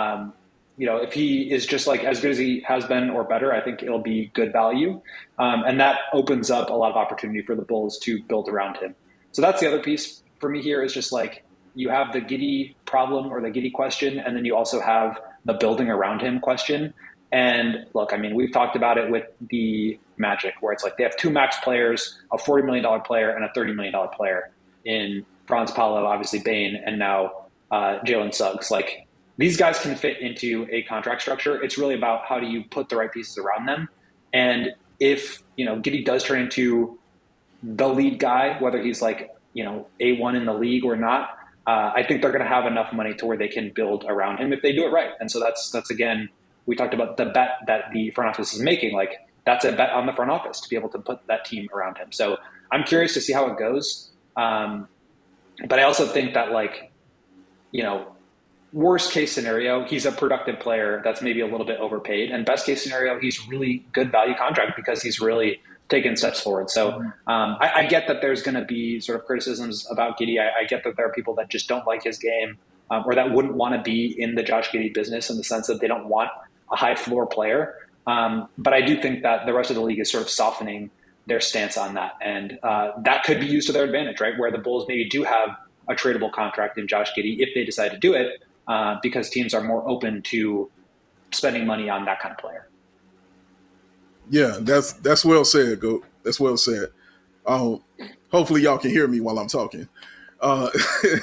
if he is just like as good as he has been or better, I think it'll be good value. And that opens up a lot of opportunity for the Bulls to build around him. So that's the other piece for me here, is just like, you have the Giddey problem or the Giddey question, and then you also have the building around him question. And look, I mean, we've talked about it with the Magic, where it's like they have 2 max players, a $40 million player and a $30 million player in Franz Paolo, obviously Bane, and now Jalen Suggs. Like, these guys can fit into a contract structure. It's really about how do you put the right pieces around them. And if, Giddey does turn into the lead guy, whether he's like, A1 in the league or not, I think they're going to have enough money to where they can build around him if they do it right. And so that's again, we talked about the bet that the front office is making. Like, that's a bet on the front office to be able to put that team around him. So I'm curious to see how it goes. But I also think that, like, worst case scenario, he's a productive player that's maybe a little bit overpaid. And best case scenario, he's really good value contract because he's really taken steps forward. So I get that there's going to be sort of criticisms about Giddey. I get that there are people that just don't like his game or that wouldn't want to be in the Josh Giddey business in the sense that they don't want a high floor player. But I do think that the rest of the league is sort of softening their stance on that. And that could be used to their advantage, right? Where the Bulls maybe do have a tradable contract in Josh Giddey if they decide to do it. Because teams are more open to spending money on that kind of player. Yeah, that's well said, Goat. That's well said. Hopefully y'all can hear me while I'm talking. I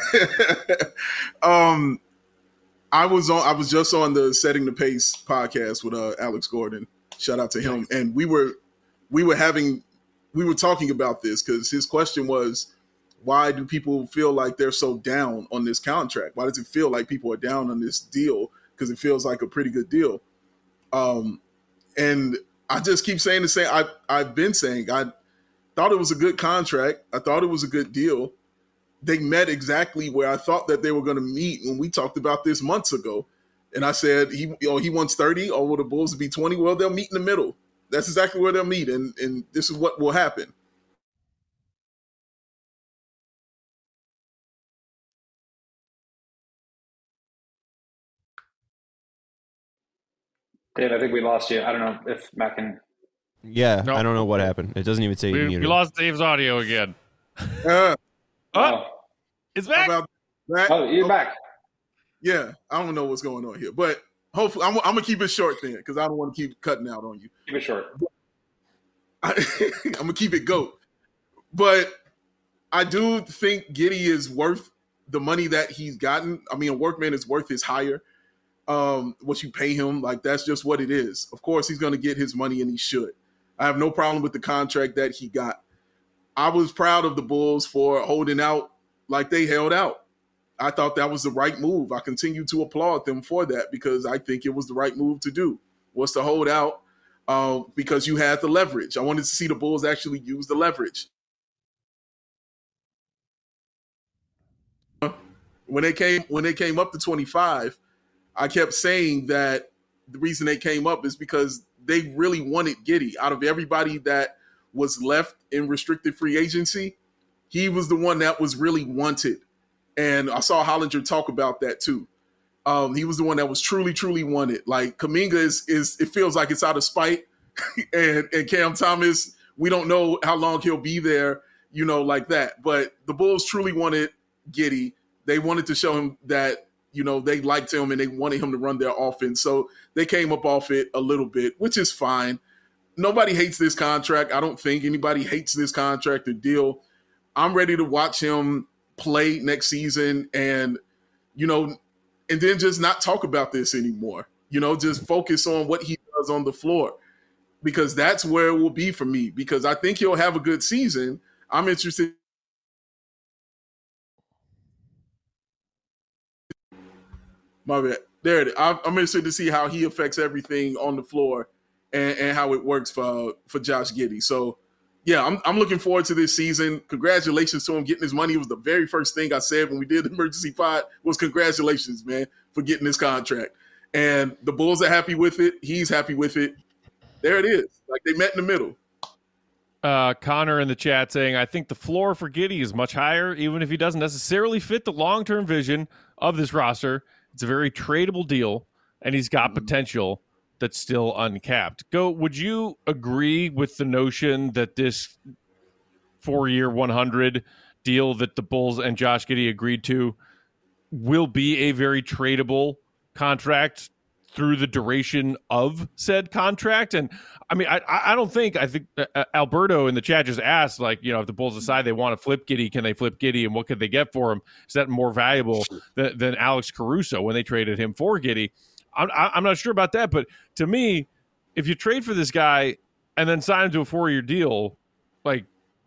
was just on the Setting the Pace podcast with Alex Gordon. Shout out to him. And we were talking about this because his question was, why do people feel like they're so down on this contract? Why does it feel like people are down on this deal? Because it feels like a pretty good deal. And I just keep saying the same. I've been saying I thought it was a good contract. I thought it was a good deal. They met exactly where I thought that they were going to meet when we talked about this months ago. And I said, he wants 30, or will the Bulls be 20? Well, they'll meet in the middle. That's exactly where they'll meet. And this is what will happen. Dave, I think we lost you. I don't know if Matt can. Yeah, No. I don't know what happened. It doesn't even say We muted. lost Dave's audio again. Uh, It's how back. about that? Oh, you're back. Yeah, I don't know what's going on here. But hopefully, I'm going to keep it short then because I don't want to keep cutting out on you. Keep it short. I'm going to keep it GOAT. But I do think Giddey is worth the money that he's gotten. I mean, a workman is worth his hire. What you pay him, like that's just what it is. Of course, he's going to get his money and he should. I have no problem with the contract that he got. I was proud of the Bulls for holding out like they held out. I thought that was the right move. I continue to applaud them for that because I think it was the right move to do, was to hold out because you had the leverage. I wanted to see the Bulls actually use the leverage. When they came up to 25, I kept saying that the reason they came up is because they really wanted Giddey. Out of everybody that was left in restricted free agency, he was the one that was really wanted. And I saw Hollinger talk about that too. He was the one that was truly, truly wanted. Like Kuminga is it feels like it's out of spite. and Cam Thomas, we don't know how long he'll be there, like that. But the Bulls truly wanted Giddey. They wanted to show him that, they liked him and they wanted him to run their offense. So they came up off it a little bit, which is fine. Nobody hates this contract. I don't think anybody hates this contract or deal. I'm ready to watch him play next season and then just not talk about this anymore. Just focus on what he does on the floor because that's where it will be for me because I think he'll have a good season. I'm interested. My bad. There it is. I'm interested to see how he affects everything on the floor and how it works for Josh Giddey. So, yeah, I'm looking forward to this season. Congratulations to him getting his money. It was the very first thing I said when we did the emergency pod was congratulations, man, for getting this contract. And the Bulls are happy with it. He's happy with it. There it is. Like they met in the middle. Connor in the chat saying, I think the floor for Giddey is much higher, even if he doesn't necessarily fit the long-term vision of this roster. It's a very tradable deal, and he's got potential that's still uncapped. Would you agree with the notion that this 4-year, 100 deal that the Bulls and Josh Giddey agreed to will be a very tradable contract through the duration of said contract? And I mean, I think Alberto in the chat just asked, like, if the Bulls decide they want to flip Giddey, can they flip Giddey and what could they get for him? Is that more valuable than Alex Caruso when they traded him for Giddey? I'm not sure about that, but to me, if you trade for this guy and then sign him to a 4-year deal, like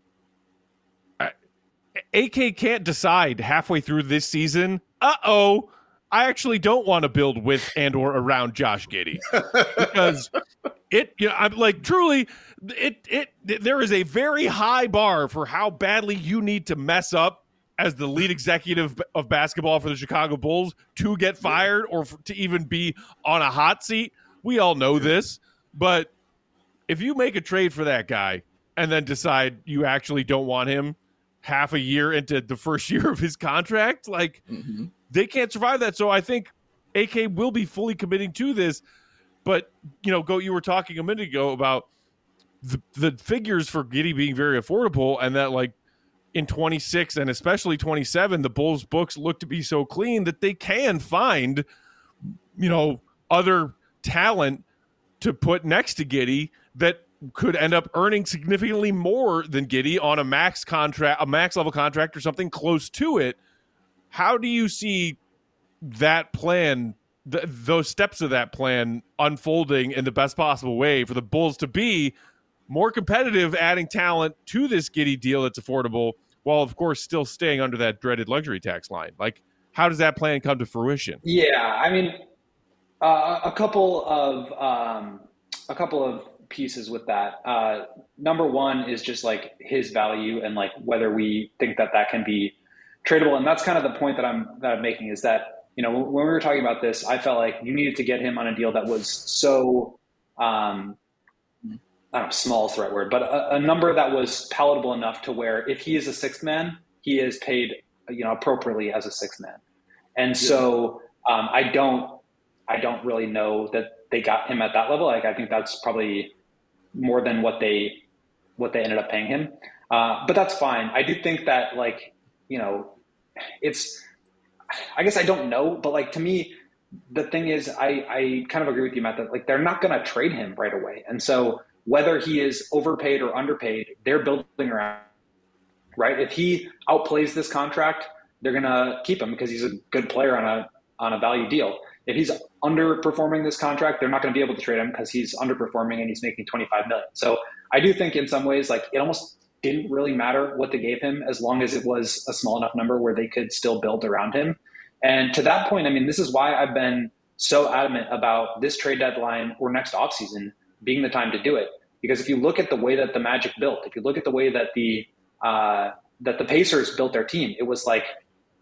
AK can't decide halfway through this season, I actually don't want to build with and or around Josh Giddey because I'm like, truly, there is a very high bar for how badly you need to mess up as the lead executive of basketball for the Chicago Bulls to get fired or to even be on a hot seat. We all know this, but if you make a trade for that guy and then decide you actually don't want him half a year into the first year of his contract, like they can't survive that. So I think AK will be fully committing to this. But, Goat, you were talking a minute ago about the figures for Giddey being very affordable, and that like in 26 and especially 27, the Bulls books look to be so clean that they can find, other talent to put next to Giddey that could end up earning significantly more than Giddey on a max level contract or something close to it. How do you see that plan, those steps of that plan unfolding in the best possible way for the Bulls to be more competitive, adding talent to this Giddey deal that's affordable, while of course still staying under that dreaded luxury tax line? Like, how does that plan come to fruition? Yeah, I mean, a couple of pieces with that. Number one is just like his value and like whether we think that can be tradable, and that's kind of the point that I'm making, is that when we were talking about this, I felt like you needed to get him on a deal that was so I don't know, small is the right word, but a number that was palatable enough to where if he is a sixth man, he is paid appropriately as a sixth man. And so I don't really know that they got him at that level. Like, I think that's probably more than what they ended up paying him. But that's fine. I do think that it's, I guess I don't know, but like, to me, the thing is, I kind of agree with you, Matt, that like they're not going to trade him right away. And so whether he is overpaid or underpaid, they're building around, right? If he outplays this contract, they're going to keep him because he's a good player on a value deal. If he's underperforming this contract, they're not going to be able to trade him because he's underperforming and he's making $25 million. So I do think in some ways, like, it almost didn't really matter what they gave him as long as it was a small enough number where they could still build around him. And to that point, I mean, this is why I've been so adamant about this trade deadline or next offseason being the time to do it. Because if you look at the way that the Magic built, if you look at the way that the Pacers built their team, it was like,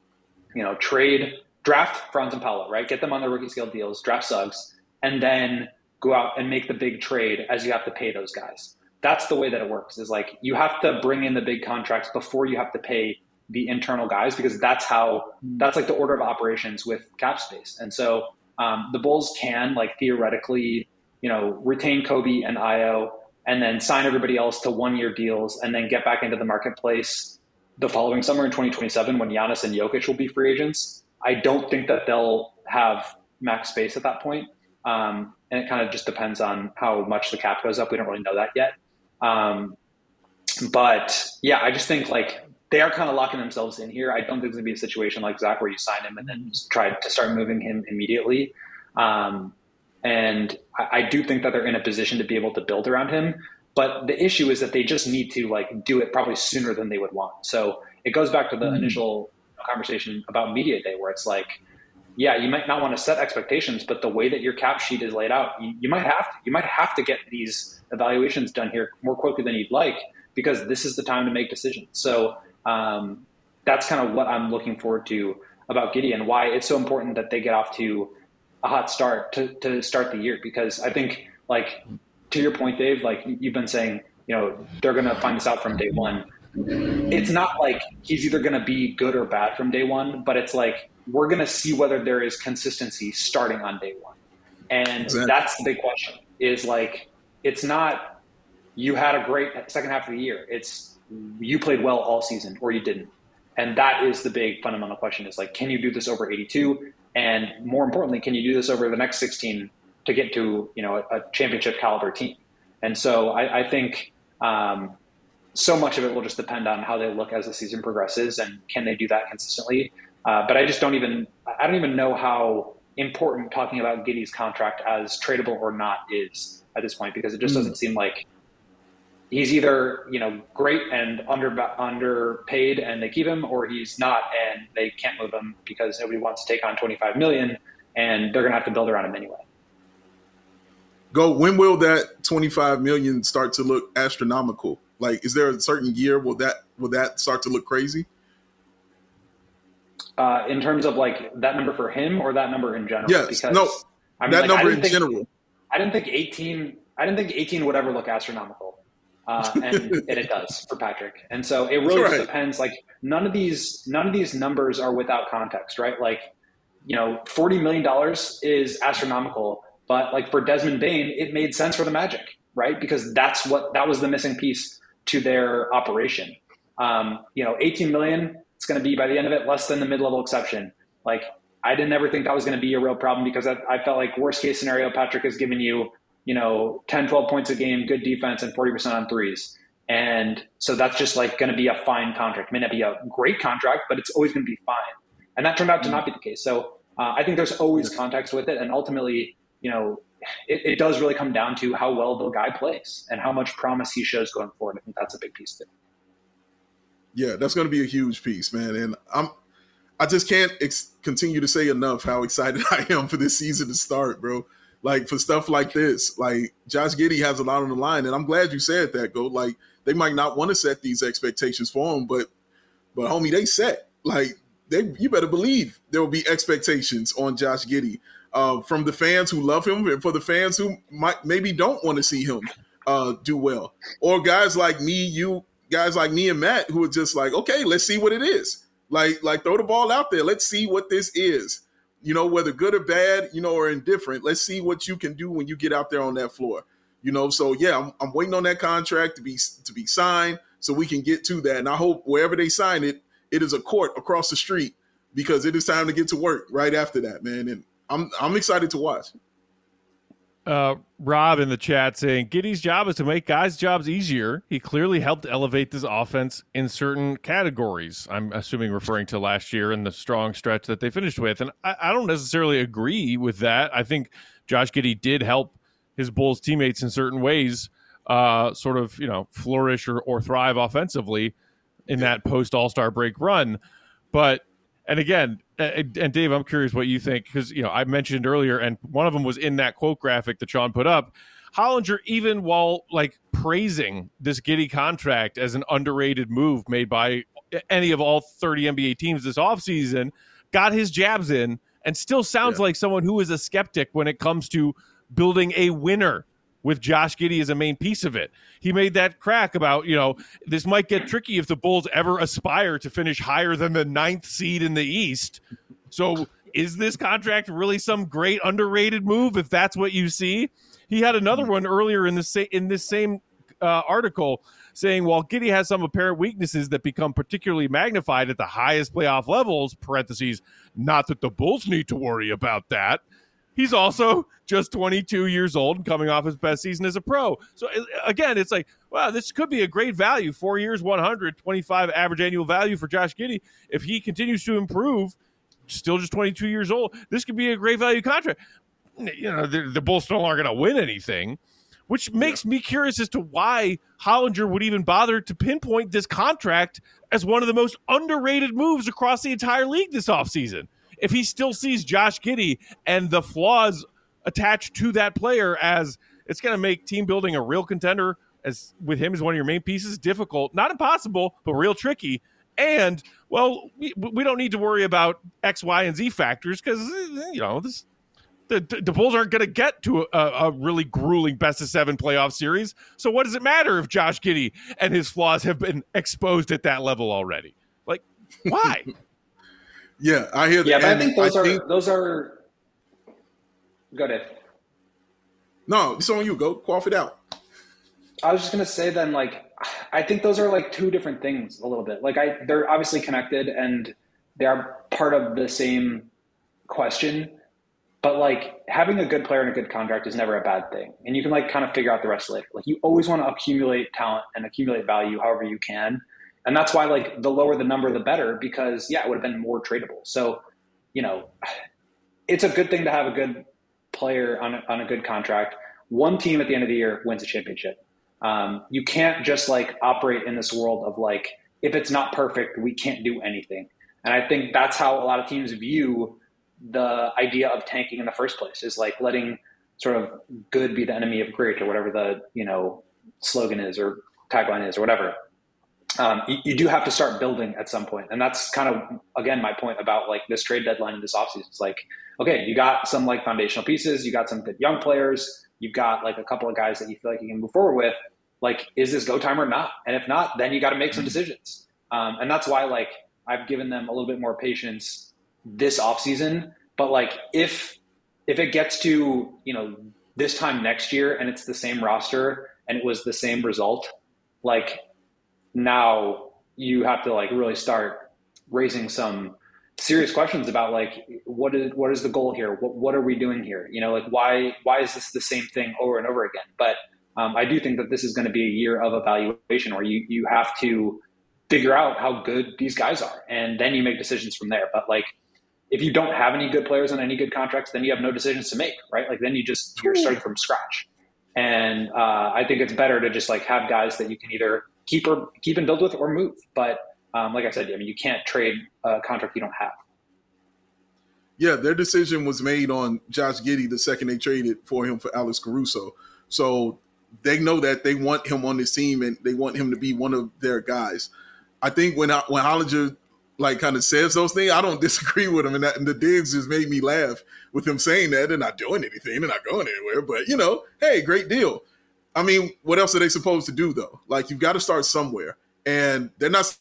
draft Franz and Paolo, right? Get them on their rookie scale deals, draft Suggs, and then go out and make the big trade as you have to pay those guys. That's the way that it works, is like you have to bring in the big contracts before you have to pay the internal guys, because that's like the order of operations with cap space. And so the Bulls can like theoretically, retain Kobe and Ayo and then sign everybody else to 1-year deals and then get back into the marketplace the following summer in 2027 when Giannis and Jokic will be free agents. I don't think that they'll have max space at that point. And it kind of just depends on how much the cap goes up. We don't really know that yet. But yeah, I just think like they are kind of locking themselves in here. I don't think it's going to be a situation like Zach where you sign him and then try to start moving him immediately. And I do think that they're in a position to be able to build around him. But the issue is that they just need to like do it probably sooner than they would want. So it goes back to the initial conversation about media day, where it's like, yeah, you might not want to set expectations, but the way that your cap sheet is laid out, you might have to get these evaluations done here more quickly than you'd like, because this is the time to make decisions. So that's kind of what I'm looking forward to about Giddey and why it's so important that they get off to a hot start to start the year. Because I think, like, to your point, Dave, like you've been saying, they're going to find this out from day one. It's not like he's either going to be good or bad from day one, but it's like we're going to see whether there is consistency starting on day one. And that's the big question, is like, it's not you had a great second half of the year. It's you played well all season or you didn't. And that is the big fundamental question, is like, can you do this over 82? And more importantly, can you do this over the next 16 to get to, a championship caliber team? And so I think so much of it will just depend on how they look as the season progresses and can they do that consistently. But I don't even know how important talking about Giddey's contract as tradable or not is at this point, because it just doesn't seem like he's either, great and underpaid and they keep him, or he's not and they can't move him because nobody wants to take on $25 million and they're going to have to build around him anyway. When will that $25 million start to look astronomical? Like, is there a certain year will that start to look crazy? In terms of like that number for him or that number in general? Yes, because no, I mean, that like, number in general. I didn't think 18. I didn't think 18 would ever look astronomical, and it does for Patrick. And so it really just depends. Like none of these numbers are without context, right? Like, you know, $40 million is astronomical, but like for Desmond Bane, it made sense for the Magic, right? Because that was the missing piece to their operation. You know, 18 million. It's going to be by the end of it less than the mid-level exception. Like I didn't ever think that was going to be a real problem because I felt like worst case scenario, Patrick has given you, you know, 10, 12 points a game, good defense, and 40% on threes. And so that's just like going to be a fine contract. It may not be a great contract, but it's always going to be fine. And that turned out to not be the case. So I think there's always context with it. And ultimately, you know, it does really come down to how well the guy plays and how much promise he shows going forward. I think that's a big piece too. Yeah, that's going to be a huge piece, man. And I just can't continue to say enough how excited I am for this season to start, bro. Like for stuff like this, like Josh Giddey has a lot on the line, and I'm glad you said that, Go. Like they might not want to set these expectations for him, but homie, they set. Like you better believe there will be expectations on Josh Giddey from the fans who love him, and for the fans who maybe don't want to see him do well, or guys like me, guys like me and Matt who are just like, okay, let's see what it is. Like throw the ball out there. Let's see what this is. You know, whether good or bad, you know, or indifferent. Let's see what you can do when you get out there on that floor. You know, so yeah, I'm waiting on that contract to be signed so we can get to that. And I hope wherever they sign it, it is a court across the street because it is time to get to work right after that, man. And I'm excited to watch. Rob in the chat saying Giddey's job is to make guys' jobs easier. He clearly helped elevate this offense in certain categories. I'm assuming referring to last year and the strong stretch that they finished with. And I don't necessarily agree with that. I think Josh Giddey did help his Bulls teammates in certain ways sort of, you know, flourish or thrive offensively in that post All-Star break run. But, and again, and Dave, I'm curious what you think, because, you know, I mentioned earlier, and one of them was in that quote graphic that Sean put up. Hollinger, even while like praising this Giddey contract as an underrated move made by any of all 30 NBA teams this offseason, got his jabs in and still sounds like someone who is a skeptic when it comes to building a winner with Josh Giddey as a main piece of it. He made that crack about, you know, this might get tricky if the Bulls ever aspire to finish higher than the 9th seed in the East. So is this contract really some great underrated move if that's what you see? He had another one earlier in this same article saying, while Giddey has some apparent weaknesses that become particularly magnified at the highest playoff levels, parentheses, not that the Bulls need to worry about that, he's also just 22 years old and coming off his best season as a pro. So, again, it's like, wow, this could be a great value. 4 years, 125 average annual value for Josh Giddey. If he continues to improve, still just 22 years old, this could be a great value contract. You know, the Bulls still aren't going to win anything, which makes me curious as to why Hollinger would even bother to pinpoint this contract as one of the most underrated moves across the entire league this offseason. If he still sees Josh Giddey and the flaws attached to that player as it's going to make team building a real contender as with him as one of your main pieces difficult, not impossible, but real tricky. And, well, we don't need to worry about X, Y, and Z factors because, you know, the Bulls aren't going to get to a really grueling best-of-7 playoff series. So what does it matter if Josh Giddey and his flaws have been exposed at that level already? Like, why? Yeah, I hear that. Yeah, but I think those are. Go ahead. No, it's on you. Go quaff it out. I was just gonna say then, like, I think those are like two different things a little bit. Like, they're obviously connected and they are part of the same question. But like having a good player and a good contract is never a bad thing, and you can like kind of figure out the rest later. Like, you always want to accumulate talent and accumulate value however you can. And that's why, like, the lower the number, the better, because, yeah, it would have been more tradable. So, you know, it's a good thing to have a good player on a good contract. One team at the end of the year wins a championship. You can't just, like, operate in this world of, like, if it's not perfect, we can't do anything. And I think that's how a lot of teams view the idea of tanking in the first place, is, like, letting sort of good be the enemy of great, or whatever the, you know, slogan is or tagline is or whatever. you do have to start building at some point. And that's kind of, again, my point about like this trade deadline in this offseason. It's like, okay, you got some like foundational pieces, you got some good young players, you've got like a couple of guys that you feel like you can move forward with. Like, is this go time or not? And if not, then you got to make some decisions. And that's why like I've given them a little bit more patience this offseason. But like if it gets to, this time next year and it's the same roster and it was the same result, like now you have to like really start raising some serious questions about like what is the goal here? What are we doing here? Like why is this the same thing over and over again? But I do think that this is going to be a year of evaluation where you have to figure out how good these guys are, and then you make decisions from there. But like if you don't have any good players on any good contracts, then you have no decisions to make, right? Like then you're starting from scratch. And I think it's better to just like have guys that you can either keep and build with or move. But like I said, you can't trade a contract you don't have. Yeah, their decision was made on Josh Giddey the second they traded for him for Alex Caruso. So they know that they want him on this team and they want him to be one of their guys. I think when Hollinger like kind of says those things, I don't disagree with him. And the digs just made me laugh with him saying that they're not doing anything. They're not going anywhere. But, hey, great deal. I mean, what else are they supposed to do, though? Like, you've got to start somewhere. And they're not.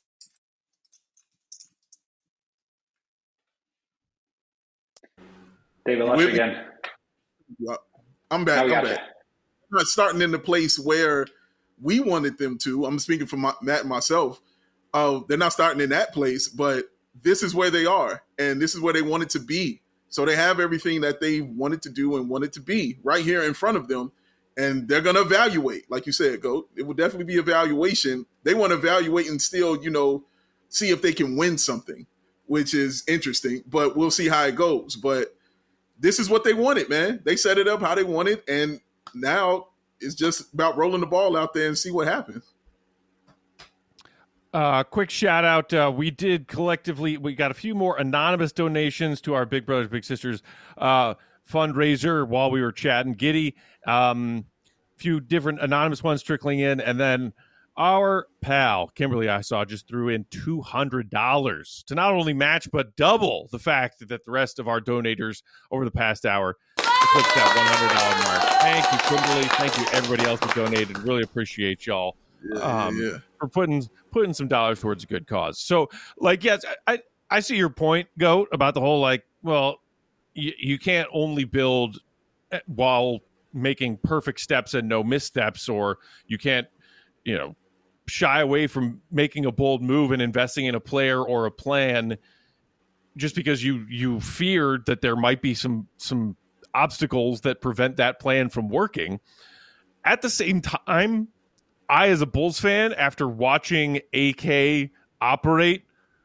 David, lost you again. I'm back. I'm back. They're not starting in the place where we wanted them to. I'm speaking for Matt and myself. They're not starting in that place, but this is where they are, and this is where they wanted to be. So they have everything that they wanted to do and wanted to be right here in front of them, and they're going to evaluate. Like you said, Goat, it will definitely be evaluation. They want to evaluate and still, see if they can win something, which is interesting, but we'll see how it goes. But this is what they wanted, man. They set it up how they wanted, and now it's just about rolling the ball out there and see what happens. Quick shout out. We got a few more anonymous donations to our Big Brothers Big Sisters fundraiser while we were chatting. Giddey, few different anonymous ones trickling in, and then our pal Kimberly I saw just threw in $200 to not only match but double the fact that the rest of our donators over the past hour eclipsed that $100 mark. Thank you, Kimberly. Thank you everybody else who donated. Really appreciate y'all. For putting some dollars towards a good cause. So, like, yes, I see your point, Goat, about the whole, like, well, you can't only build while making perfect steps and no missteps, or you can't, shy away from making a bold move and investing in a player or a plan just because you feared that there might be some obstacles that prevent that plan from working. At the same time, I, as a Bulls fan, after watching AK operate,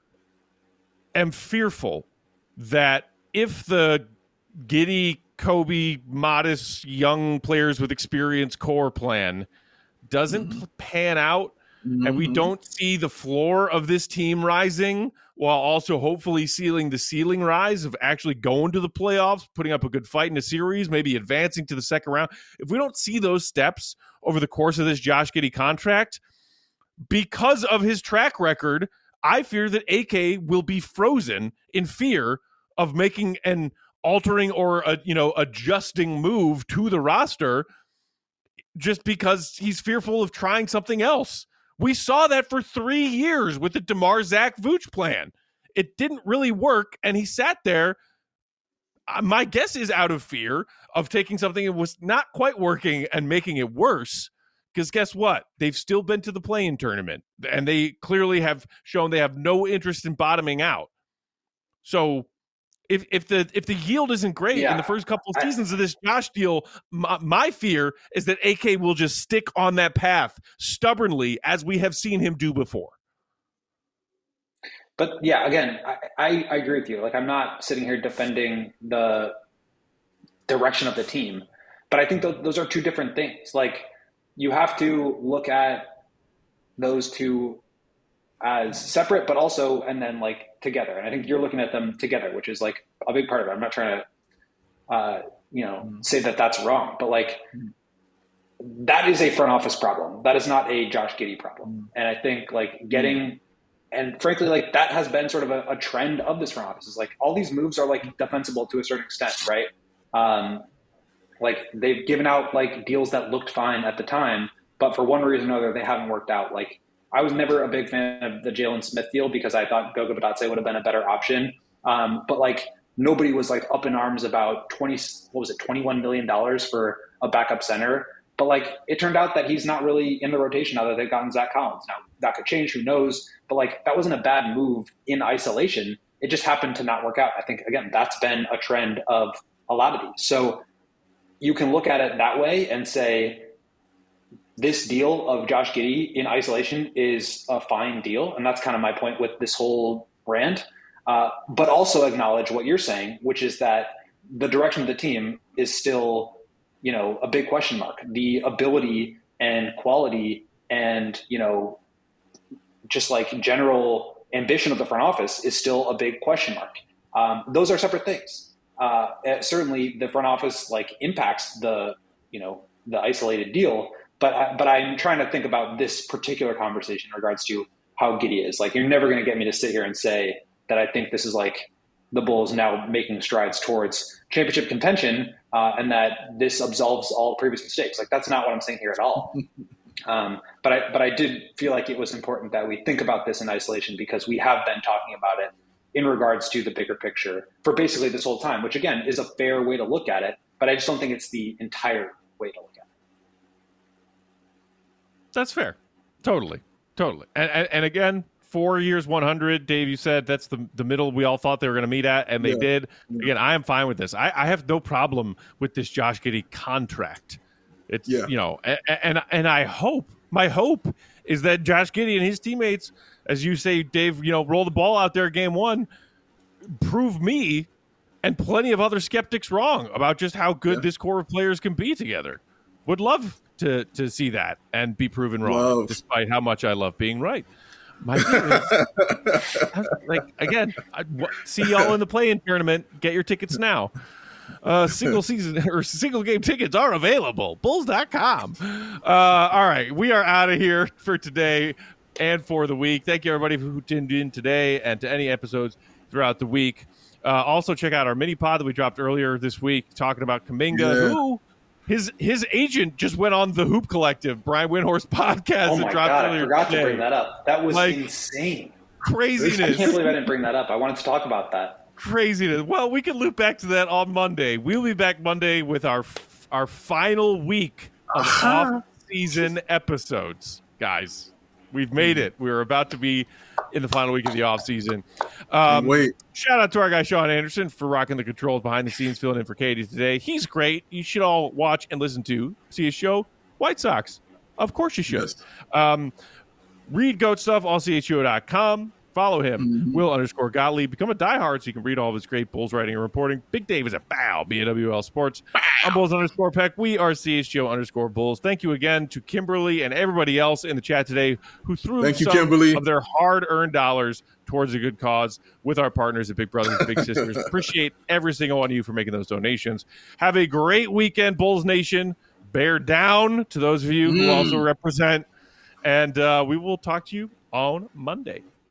am fearful that if the Giddey, Kobe, modest, young players with experience core plan doesn't pan out, and we don't see the floor of this team rising while also hopefully sealing the ceiling rise of actually going to the playoffs, putting up a good fight in a series, maybe advancing to the second round. If we don't see those steps over the course of this Josh Giddey contract, because of his track record, I fear that AK will be frozen in fear of making an altering or adjusting move to the roster just because he's fearful of trying something else. We saw that for 3 years with the DeMar Zach Vooch plan. It didn't really work, and he sat there. My guess is out of fear of taking something that was not quite working and making it worse. Because guess what? They've still been to the play-in tournament, and they clearly have shown they have no interest in bottoming out. So if the yield isn't great in the first couple of seasons of this Josh deal, my fear is that AK will just stick on that path stubbornly, as we have seen him do before. But yeah, again, I agree with you. Like, I'm not sitting here defending the direction of the team, but I think those are two different things. Like, you have to look at those two as separate, but also, and then like together. And I think you're looking at them together, which is like a big part of it. I'm not trying to, say that that's wrong, but like that is a front office problem. That is not a Josh Giddey problem. And I think like getting, and frankly, like that has been sort of a trend of this front office. Is like all these moves are like defensible to a certain extent, right? Like they've given out like deals that looked fine at the time, but for one reason or another, they haven't worked out. Like I was never a big fan of the Jalen Smith deal because I thought Goga Bitadze would have been a better option. But like nobody was like up in arms about $21 million for a backup center. But like it turned out that he's not really in the rotation now that they've gotten Zach Collins. Now that could change, who knows? But like that wasn't a bad move in isolation. It just happened to not work out. I think again that's been a trend of a lot of these. So you can look at it that way and say this deal of Josh Giddey in isolation is a fine deal, and that's kind of my point with this whole rant. But also acknowledge what you're saying, which is that the direction of the team is still, a big question mark. The ability and quality and, just like general ambition of the front office is still a big question mark. Those are separate things. Certainly the front office like impacts the isolated deal, but I'm trying to think about this particular conversation in regards to how Giddey is. Like, you're never going to get me to sit here and say that I think this is like the Bulls now making strides towards championship contention, and that this absolves all previous mistakes. Like, that's not what I'm saying here at all. But I did feel like it was important that we think about this in isolation because we have been talking about it in regards to the bigger picture for basically this whole time, which again is a fair way to look at it, but I just don't think it's the entire way to look at it. That's fair. Totally. And again, 4 years, 100, Dave, you said that's the middle we all thought they were going to meet at, and they did. Again, I am fine with this. I have no problem with this Josh Giddey contract. It's, and I hope, my hope is that Josh Giddey and his teammates, as you say, Dave, roll the ball out there game one, prove me and plenty of other skeptics wrong about just how good this core of players can be together. Would love to see that and be proven wrong, despite how much I love being right. My thing is, like, again, see y'all in the play-in tournament. Get your tickets now. Single season or single game tickets are available. Bulls.com. All right, we are out of here for today and for the week. Thank you, everybody, who tuned in today and to any episodes throughout the week. Also, check out our mini pod that we dropped earlier this week talking about Kuminga, who his agent just went on the Hoop Collective, Brian Windhorst podcast. Oh my God, I forgot today. To bring that up. That was insane. Craziness. I can't believe I didn't bring that up. I wanted to talk about that. Craziness. Well, we can loop back to that on Monday. We'll be back Monday with our final week of off-season episodes, guys. We've made it. We're about to be in the final week of the off-season. Shout out to our guy Sean Anderson for rocking the controls behind the scenes, filling in for Katie today. He's great. You should all watch and listen to, see his show, White Sox. Of course you should. Yes. Read Goat Stuff, allcho.com. Follow him, Will_Gottlieb. Become a diehard so you can read all of his great Bulls writing and reporting. Big Dave is at BAWL Sports. I'm Bulls_Peck. We are CHGO_Bulls. Thank you again to Kimberly and everybody else in the chat today who threw some of their hard-earned dollars towards a good cause with our partners at Big Brothers and Big Sisters. Appreciate every single one of you for making those donations. Have a great weekend, Bulls Nation. Bear down to those of you who also represent. And we will talk to you on Monday.